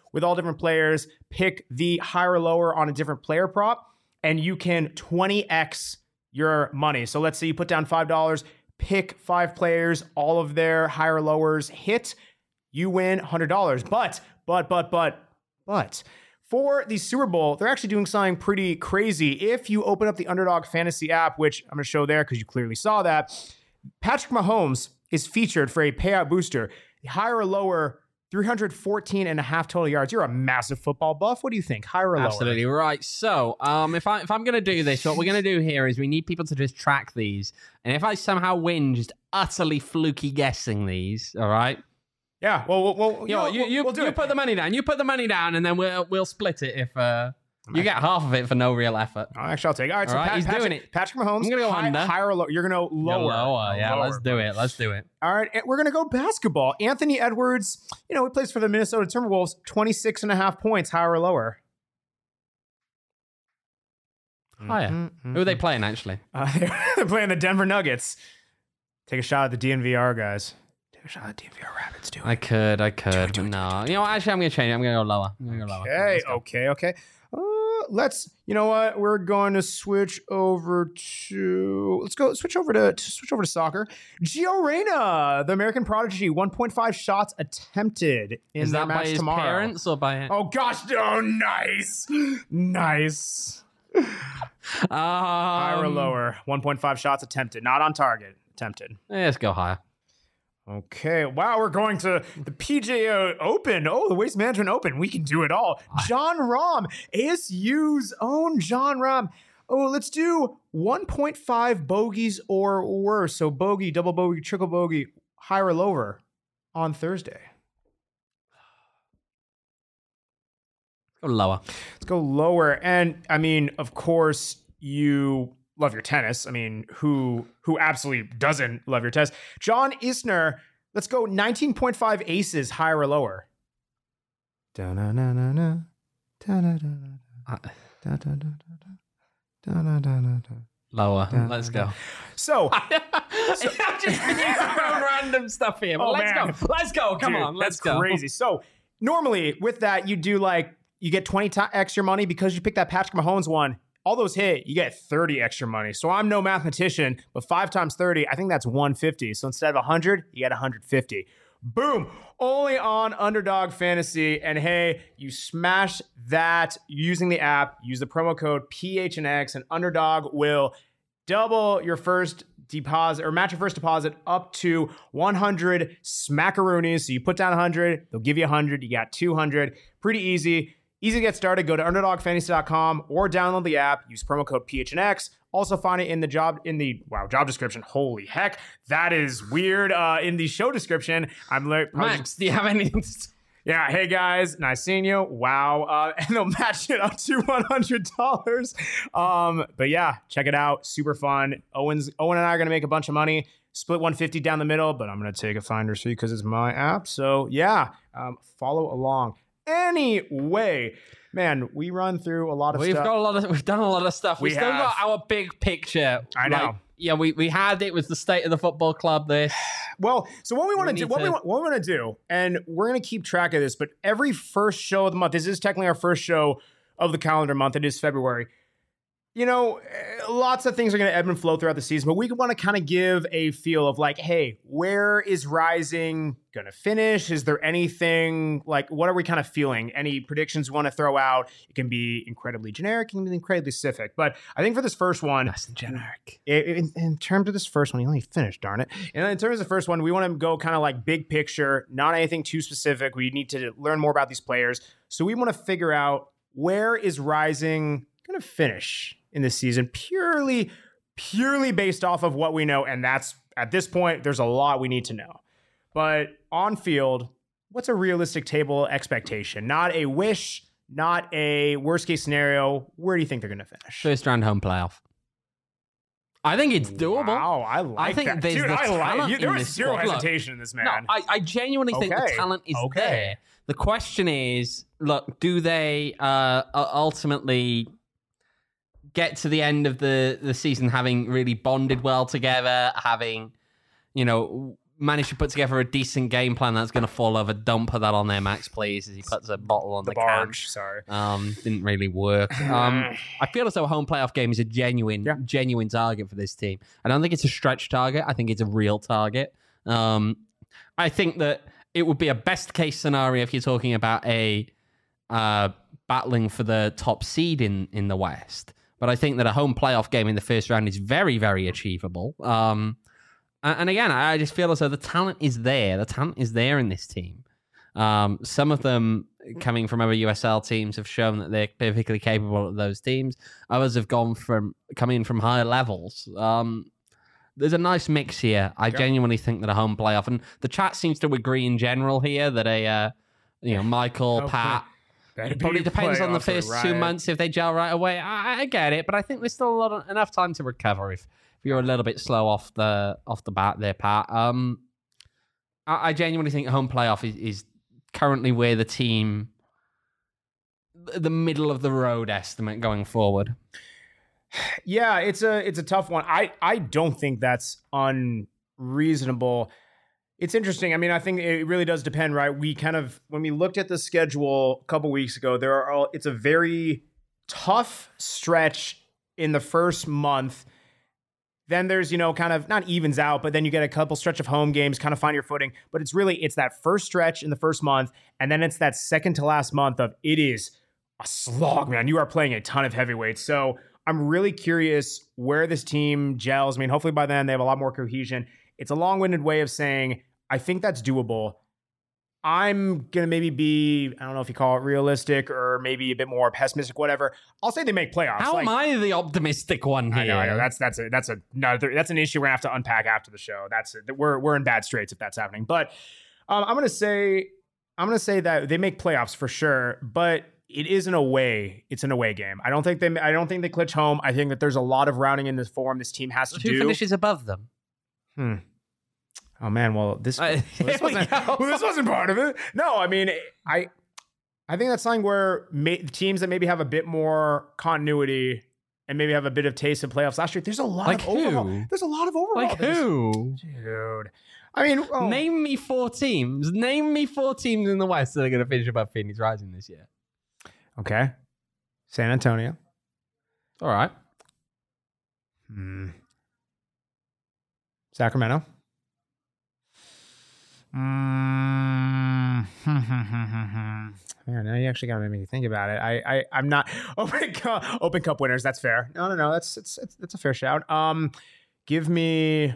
with all different players. Pick the higher or lower on a different player prop, and you can twenty x your money. So let's say you put down five dollars, pick five players, all of their higher or lowers hit, you win one hundred dollars. But, but, but, but, but, for the Super Bowl, they're actually doing something pretty crazy. If you open up the Underdog Fantasy app, which I'm going to show there because you clearly saw that, Patrick Mahomes is featured for a payout booster. Higher or lower, three hundred fourteen and a half total yards. You're a massive football buff. What do you think? Higher or lower? Absolutely right. So, um, if I if I'm gonna do this, what we're gonna do here is we need people to just track these, and if I somehow win, just utterly fluky guessing these, all right? Yeah. Well, well, well you know, you you, we'll do you it. put the money down. You put the money down, and then we'll we'll split it if uh you get half of it for no real effort. Oh, actually, I'll take it. All right, so All right, Pat, he's Patrick, doing it. Patrick Mahomes. I'm gonna go high, under. Higher or lower? You're gonna Go lower. lower. Yeah, Lower, let's do it. Let's do it. All right, and we're going to go basketball. Anthony Edwards, you know, he plays for the Minnesota Timberwolves, twenty-six and a half points, higher or lower? Higher. Mm-hmm. Who are they playing, actually? Uh, they're playing the Denver Nuggets. Take a shot at the D N V R guys. Take a shot at the D N V R Rapids. Do it. I could, I could, but no. You know what? Actually, I'm going to change it. I'm going to go lower. I'm going to go lower. Okay, Let's go. okay, okay. Uh, let's, you know what? We're going to switch over to, let's go switch over to, to switch over to soccer. Gio Reyna, the American prodigy, one point five shots attempted in Is their that by match his tomorrow. parents or by... Oh gosh, oh nice. Nice. Um, Higher or lower? one point five shots attempted, not on target, attempted. Let's go higher. Okay, wow, we're going to the P G A Open. Oh, the Waste Management Open. We can do it all. John Rahm, A S U's own John Rahm. Oh, let's do one point five bogeys or worse. So bogey, double bogey, triple bogey, higher or lower on Thursday. Go lower. Let's go lower. And I mean, of course, you love your tennis. I mean, who who absolutely doesn't love your tennis? John Isner, let's go nineteen point five aces, higher or lower. Da-na-na-na-na. Da-na-na-na-na. Da-da-da-da-da. Da-na-na-na-na. Lower. Da-na-na. Let's go. So, I'm just using random stuff here. But Oh, let's man. go. Let's go. Come dude, on. Let's that's go. crazy. So, normally with that, you do like, you get twenty x your money because you picked that Patrick Mahomes one. All those hit, you get thirty extra money. So I'm no mathematician, but five times thirty, I think that's one hundred fifty. So instead of one hundred, you get one hundred fifty. Boom. Only on Underdog Fantasy. And hey, you smash that using the app. Use the promo code P H N X, and Underdog will double your first deposit or match your first deposit up to one hundred smackaroonies. So you put down one hundred, they'll give you one hundred. You got two hundred. Pretty easy. Easy to get started. Go to underdog fantasy dot com or download the app. Use promo code P H N X. Also find it in the job in the wow job description. Holy heck, that is weird. Uh, in the show description, I'm like, Max, do you have anything to say? yeah, hey guys, nice seeing you. Wow, uh, and they'll match it up to one hundred dollars. Um, but yeah, check it out. Super fun. Owen's Owen and I are gonna make a bunch of money. Split one hundred fifty down the middle, but I'm gonna take a finder's fee because it's my app. So yeah, um, follow along. Anyway, man, we run through a lot of We've stuff. got a lot of. We've done a lot of stuff. We We've still have. got our big picture. I know. Like, yeah, we, we had it was the state of the football club. This. Well, so what we want to We do, need what we to- want, what we want to do, and we're going to keep track of this, but every first show of the month, this is technically our first show of the calendar month. It is February. You know, eh, lots of things are going to ebb and flow throughout the season, but we want to kind of give a feel of like, hey, where is Rising going to finish? Is there anything like, what are we kind of feeling? Any predictions we want to throw out? It can be incredibly generic, it can be incredibly specific. But I think for this first one, Nice and generic. in, in terms of this first one, he only finished, darn it. And in terms of the first one, we want to go kind of like big picture, not anything too specific. We need to learn more about these players. So we want to figure out, where is Rising going to finish in this season, purely, purely based off of what we know. And that's, at this point, there's a lot we need to know. But on field, what's a realistic table expectation? Not a wish, not a worst case scenario. Where do you think they're going to finish? First round home playoff. I think it's doable. Wow, I like I think that. there's Dude, the I like talent you. There in was this zero squad. Look, hesitation in this man. No, I, I genuinely think Okay. the talent is Okay. there. The question is, look, do they uh, ultimately get to the end of the, the season having really bonded well together, having, you know, manage to put together a decent game plan that's going to fall over. Don't put that on there, Max, please, as he puts a bottle on the, The barge, sorry. Um, didn't really work. Um, I feel as though a home playoff game is a genuine, Yeah. genuine target for this team. I don't think it's a stretch target. I think it's a real target. Um, I think that it would be a best case scenario if you're talking about a uh, battling for the top seed in, in the West. But I think that a home playoff game in the first round is very, very achievable. Um, and again, I just feel as though the talent is there. The talent is there in this team. Um, some of them coming from other U S L teams have shown that they're perfectly capable of those teams. Others have gone from coming from higher levels. Um, there's a nice mix here. I Yep. genuinely think that a home playoff, and the chat seems to agree in general here that a, uh, you know, Michael, Okay. Pat, Better it probably be depends on the playoffs or first two riot. months if they gel right away. I, I get it, but I think there's still a lot of, enough time to recover if, if you're a little bit slow off the off the bat there, Pat. Um, I, I genuinely think home playoff is, is currently where the team, the middle of the road estimate going forward. Yeah, it's a it's a tough one. I I don't think that's unreasonable. It's interesting. I mean, I think it really does depend, right? We kind of when we looked at the schedule a couple weeks ago, there are all, it's a very tough stretch in the first month. Then there's, you know, kind of not evens out, but then you get a couple stretch of home games, kind of find your footing. But it's really, it's that first stretch in the first month, and then it's that second to last month of it is a slog, man. You are playing a ton of heavyweights. So I'm really curious where this team gels. I mean, hopefully by then they have a lot more cohesion. It's a long-winded way of saying, I think that's doable. I'm going to maybe be, I don't know if you call it realistic or maybe a bit more pessimistic, whatever. I'll say they make playoffs. How Like, am I the optimistic one here? I know, I know. That's that's a that's a no, that's an issue we're gonna have to unpack after the show. That's it. We're we're in bad straits if that's happening. But um, I'm gonna say I'm gonna say that they make playoffs for sure. But it is an away. It's an away game. I don't think they. I don't think they clinch home. I think that there's a lot of rounding in this form this team has to Who do. finishes above them? Hmm. Oh man. Well, this Uh, well, this here we wasn't go. well, this wasn't part of it. No, I mean, I I think that's something where ma- teams that maybe have a bit more continuity and maybe have a bit of taste of playoffs last year. There's a lot Like of overall. who? There's a lot of overall. Like this- who? Dude. I mean, oh, Name me four teams. Name me four teams in the West that are going to finish above Phoenix Rising this year. okay. San Antonio. All right. Hmm. Sacramento. Mm. Man, now you actually gotta make me think about it. I, I, I'm not open cup, open cup winners. That's fair. No, no, no. That's it's, it's that's a fair shout. Um, give me.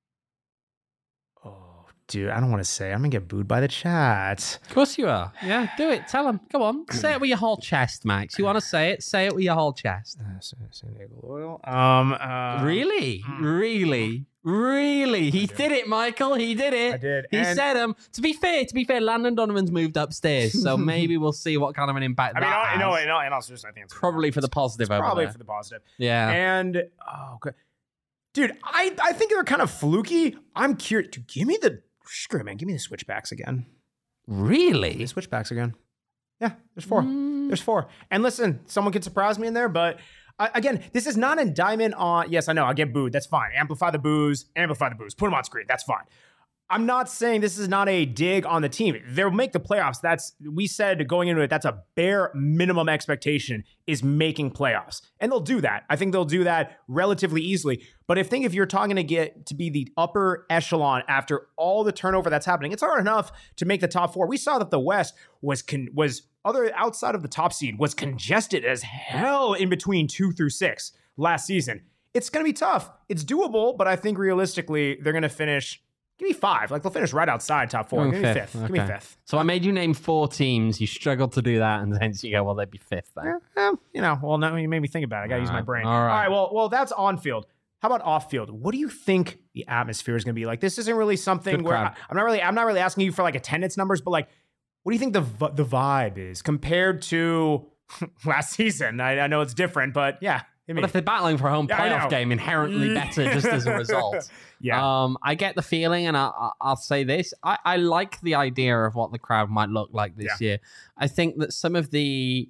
Oh, dude, I don't want to say. I'm gonna get booed by the chat. Of course you are. Yeah, do it. Tell them. Come on. Say it with your whole chest, Max. You want to say it? Say it with your whole chest. Uh, San San Diego Loyal. Um, uh, Really? Really? Really? He did it, Michael. He did it. I did. He And- said him. To be fair, to be fair, Landon Donovan's moved upstairs, so maybe we'll see what kind of an impact I mean, that I, no, has. no, and also just I think it's Probably for the positive over probably there. for the positive. Yeah. And oh, okay. Dude, I, I think they're kind of fluky. I'm curious. Dude, give me the screw it, man. Give me the switchbacks again. Really? The switchbacks again. Yeah, there's four. Mm. There's four. And listen, someone could surprise me in there, but uh, again, this is not an indictment on. Yes, I know. I get booed. That's fine. Amplify the boos. Amplify the boos. Put them on screen. That's fine. I'm not saying this is not a dig on the team. They'll make the playoffs. That's we said going into it. That's a bare minimum expectation is making playoffs, and they'll do that. I think they'll do that relatively easily. But if think if you're talking to get to be the upper echelon after all the turnover that's happening, it's hard enough to make the top four. We saw that the West was con- was other outside of the top seed was congested as hell in between two through six last season. It's going to be tough. It's doable, but I think realistically they're going to finish. Give me five. Like they'll finish right outside top four. Oh, Give me fifth. Give me Okay. fifth. So I made you name four teams. You struggled to do that, and then you go, well, they'd be fifth then. Eh, eh, you know, well, now you made me think about it. I got to use my Alright, brain. all right. All right. Well, well, that's on field. How about off field? What do you think the atmosphere is going to be like? This isn't really something Good where crowd. I, I'm not really. I'm not really asking you for like attendance numbers, but like, what do you think the v- the vibe is compared to last season? I, I know it's different, but yeah. I mean, But if they're battling for a home Yeah, I know. playoff game, inherently better just as a result. yeah. Um, I get the feeling, and I, I, I'll say this: I, I like the idea of what the crowd might look like this year. I think that some of the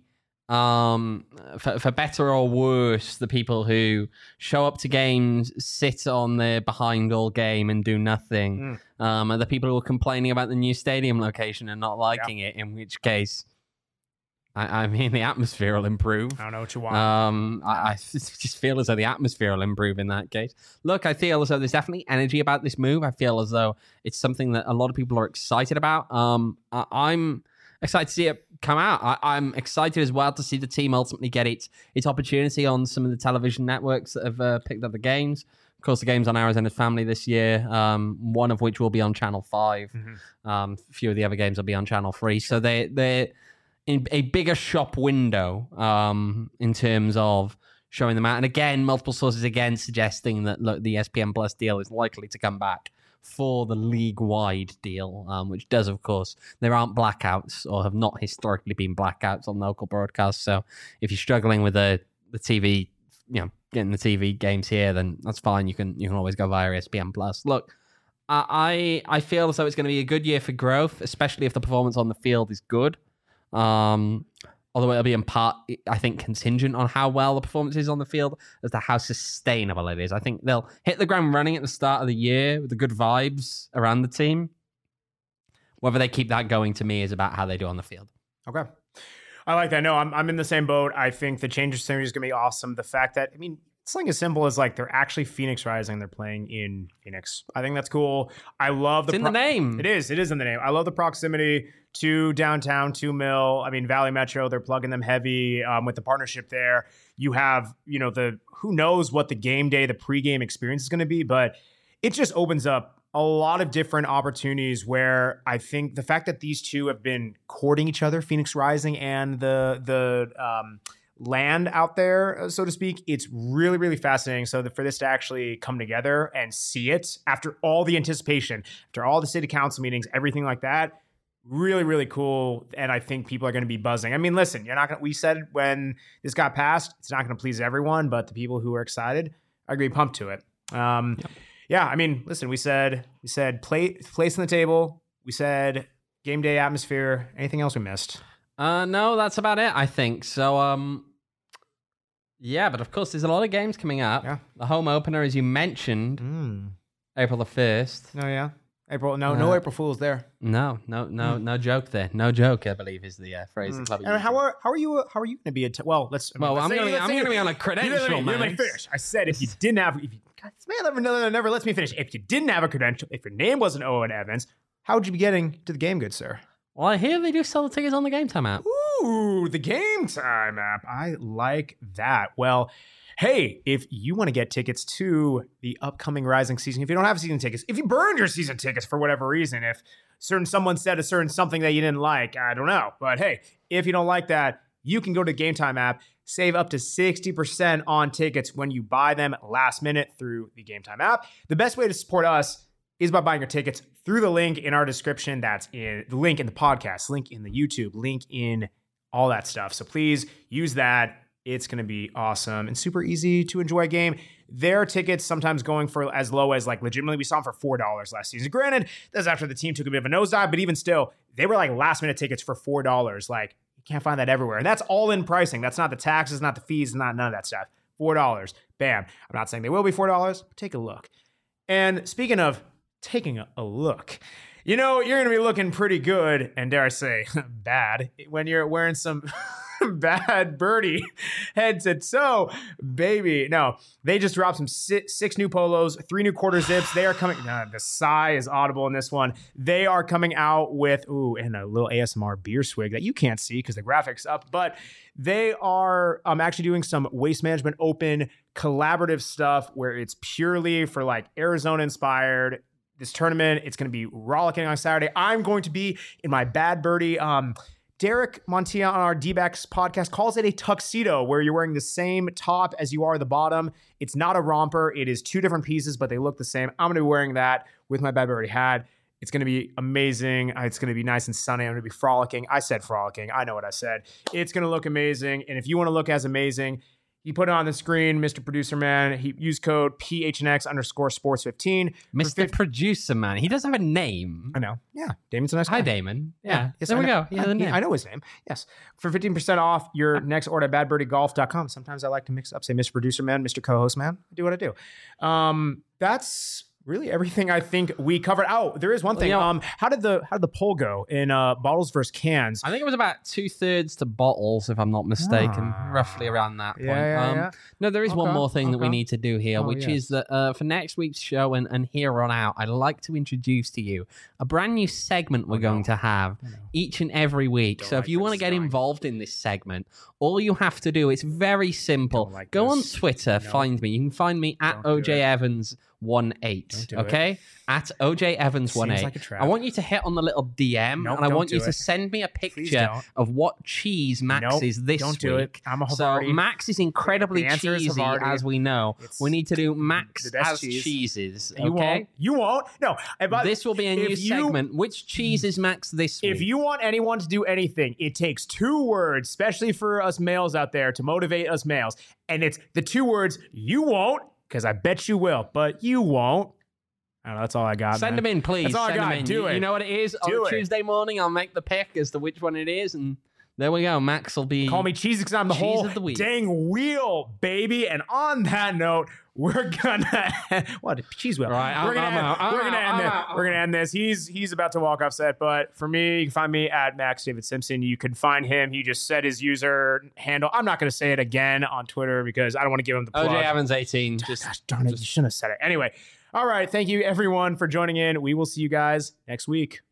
Um, for, for better or worse, the people who show up to games, sit on their behind all game and do nothing, mm. um, are the people who are complaining about the new stadium location and not liking yeah. it, in which case, I, I mean, the atmosphere will improve. I don't know what you want. Um, I, I just feel as though the atmosphere will improve in that case. Look, I feel as though there's definitely energy about this move. I feel as though it's something that a lot of people are excited about. Um, I, I'm excited to see it come out. I, I'm excited as well to see the team ultimately get its its opportunity on some of the television networks that have uh, picked up the games. Of course, the game's on Arizona Family this year, um, one of which will be on Channel five. Mm-hmm. Um, a few of the other games will be on Channel three. So they, they're in a bigger shop window um, in terms of showing them out. And again, multiple sources again suggesting that, look, the E S P N Plus deal is likely to come back for the league-wide deal, um, which does, of course, there aren't blackouts or have not historically been blackouts on local broadcasts. So if you're struggling with the, the T V, you know, getting the T V games here, then that's fine. You can you can always go via E S P N Plus. Look, I I feel as though it's going to be a good year for growth, especially if the performance on the field is good. Um, although it'll be in part, I think, contingent on how well the performance is on the field as to how sustainable it is. I think they'll hit the ground running at the start of the year with the good vibes around the team. Whether they keep that going, to me, is about how they do on the field. Okay. I like that. No, I'm I'm in the same boat. I think the change of scenery is going to be awesome. The fact that, I mean, something as simple as like they're actually Phoenix Rising. They're playing in Phoenix. I think that's cool. I love the it's in pro- the name. It is. It is in the name. I love the proximity to downtown, to Mill. I mean, Valley Metro. They're plugging them heavy um, with the partnership there. You have, you know, the who knows what the game day, the pregame experience is going to be, but it just opens up a lot of different opportunities where I think the fact that these two have been courting each other, Phoenix Rising and the the um, land out there, so to speak, it's really, really fascinating. So that for this to actually come together and see it after all the anticipation, after all the city council meetings, everything like that, really, really cool. And I think people are going to be buzzing. I mean, listen, you're not going to, we said when this got passed, it's not going to please everyone, but the people who are excited are going to be pumped to it. Um, yeah. yeah, I mean, listen, we said, we said play, place on the table. We said game day atmosphere. Anything else we missed? Uh, no, that's about it, I think. So, um, yeah, but of course, there's a lot of games coming up. Yeah. The home opener, as you mentioned, mm. April the first. Oh, yeah. April, no, uh, no April Fools there. No, no, no, mm. no joke there. No joke, I believe, is the uh, phrase. Mm. The and how are how are you? How are you going to be? A t- well, let's. I mean, well, let's I'm going to. I'm going to be on a credential. You let me finish. I said if you didn't have, if you, God, this man never, never, never lets me finish. If you didn't have a credential, if your name wasn't Owen Evans, how would you be getting to the game, good sir? Well, I hear they do sell the tickets on the Game Time app. Ooh, the Game Time app. I like that. Well, hey, if you want to get tickets to the upcoming Rising season, if you don't have season tickets, if you burned your season tickets for whatever reason, if certain someone said a certain something that you didn't like, I don't know. But hey, if you don't like that, you can go to the Game Time app, save up to sixty percent on tickets when you buy them last minute through the Game Time app. The best way to support us is by buying your tickets through the link in our description. That's in the link in the podcast, link in the YouTube, link in all that stuff. So please use that. It's going to be awesome and super easy to enjoy a game. There are tickets sometimes going for as low as, like, legitimately, we saw them for four dollars last season. Granted, that's after the team took a bit of a nosedive, but even still, they were like last minute tickets for four dollars. Like, you can't find that everywhere. And that's all in pricing. That's not the taxes, not the fees, not none of that stuff. four dollars. Bam. I'm not saying they will be four dollars, but take a look. And speaking of taking a, a look, you know, you're going to be looking pretty good, and dare I say, bad, when you're wearing some bad birdie head to toe, baby. No, they just dropped some six, six new polos, three new quarter zips. They are coming. Uh, the sigh is audible in this one. They are coming out with, ooh, and a little A S M R beer swig that you can't see because the graphics up, but they are um, actually doing some Waste Management Open collaborative stuff where it's purely for like Arizona inspired. This tournament, it's going to be rollicking on Saturday. I'm going to be in my bad birdie. Um, Derek Montilla on our D-backs podcast calls it a tuxedo, where you're wearing the same top as you are the bottom. It's not a romper. It is two different pieces, but they look the same. I'm going to be wearing that with my bad birdie hat. It's going to be amazing. It's going to be nice and sunny. I'm going to be frolicking. I said frolicking. I know what I said. It's going to look amazing. And if you want to look as amazing, He put it on the screen, Mister Producer Man. He used code P H N X underscore sports fifteen. Mister Producer Man. He does have a name. I know. Yeah. Damon's a nice guy. Hi, Damon. Yeah. Yes, there I we know. go. Yeah, I, the name. I know his name. Yes. For fifteen percent off your next order at bad birdie golf dot com. Sometimes I like to mix up, say Mister Producer Man, Mister Co-host Man. I do what I do. Um, that's really everything I think we covered. Oh, there is one thing. Well, you know, um, how did the how did the poll go in uh, bottles versus cans? I think it was about two thirds to bottles, if I'm not mistaken, Ah. roughly around that point. Yeah, yeah, um, yeah. No, there is one Okay, more thing that we okay. need to do here, Oh, which yes. is that uh, for next week's show and, and here on out, I'd like to introduce to you a brand new segment we're Oh, no. going to have Oh, no. each and every week. Don't So like if you where want to this get is going. involved in this segment, all you have to do, it's very simple. Don't like Go this. on Twitter, No. find me. You can find me at Don't do O J it. Evans one eight. Don't do it. Okay? At O J Evans one eight. Seems like a trap. I want you to hit on the little D M Nope, and I don't want do you to it. send me a Please picture don't. of what cheese Max Nope, is this don't do week. it. I'm a So Havarti. Max is incredibly The answers have cheesy, already- as we know. It's We need to do Max the best as cheese. cheeses. Okay. You won't. You won't. No. And by- This will be a new if you- segment. Which cheese is Max this week? If you want anyone to do anything, it takes two words, especially for us males out there, to motivate us males. And it's the two words, you won't, because I bet you will, but you won't. I don't know, that's all I got. Send man. them in, please. That's all I Send them got. in. Do you, it. you know what it is? Do On it. Tuesday morning, I'll make the pick as to which one it is, and there we go. Max will be. Call me cheesy because I'm the Cheese whole of the week. dang wheel, baby. And on that note, we're gonna what cheese wheel. Right, I'm- we're gonna I'm end, out. I'm we're gonna out. end I'm this. out. We're gonna end this. He's he's about to walk off set, but for me, you can find me at Max David Simpson. You can find him. He just said his user handle. I'm not gonna say it again on Twitter because I don't want to give him the plug. O J Evans eighteen. Just Gosh darn it, you shouldn't have said it. Anyway, all right. Thank you everyone for joining in. We will see you guys next week.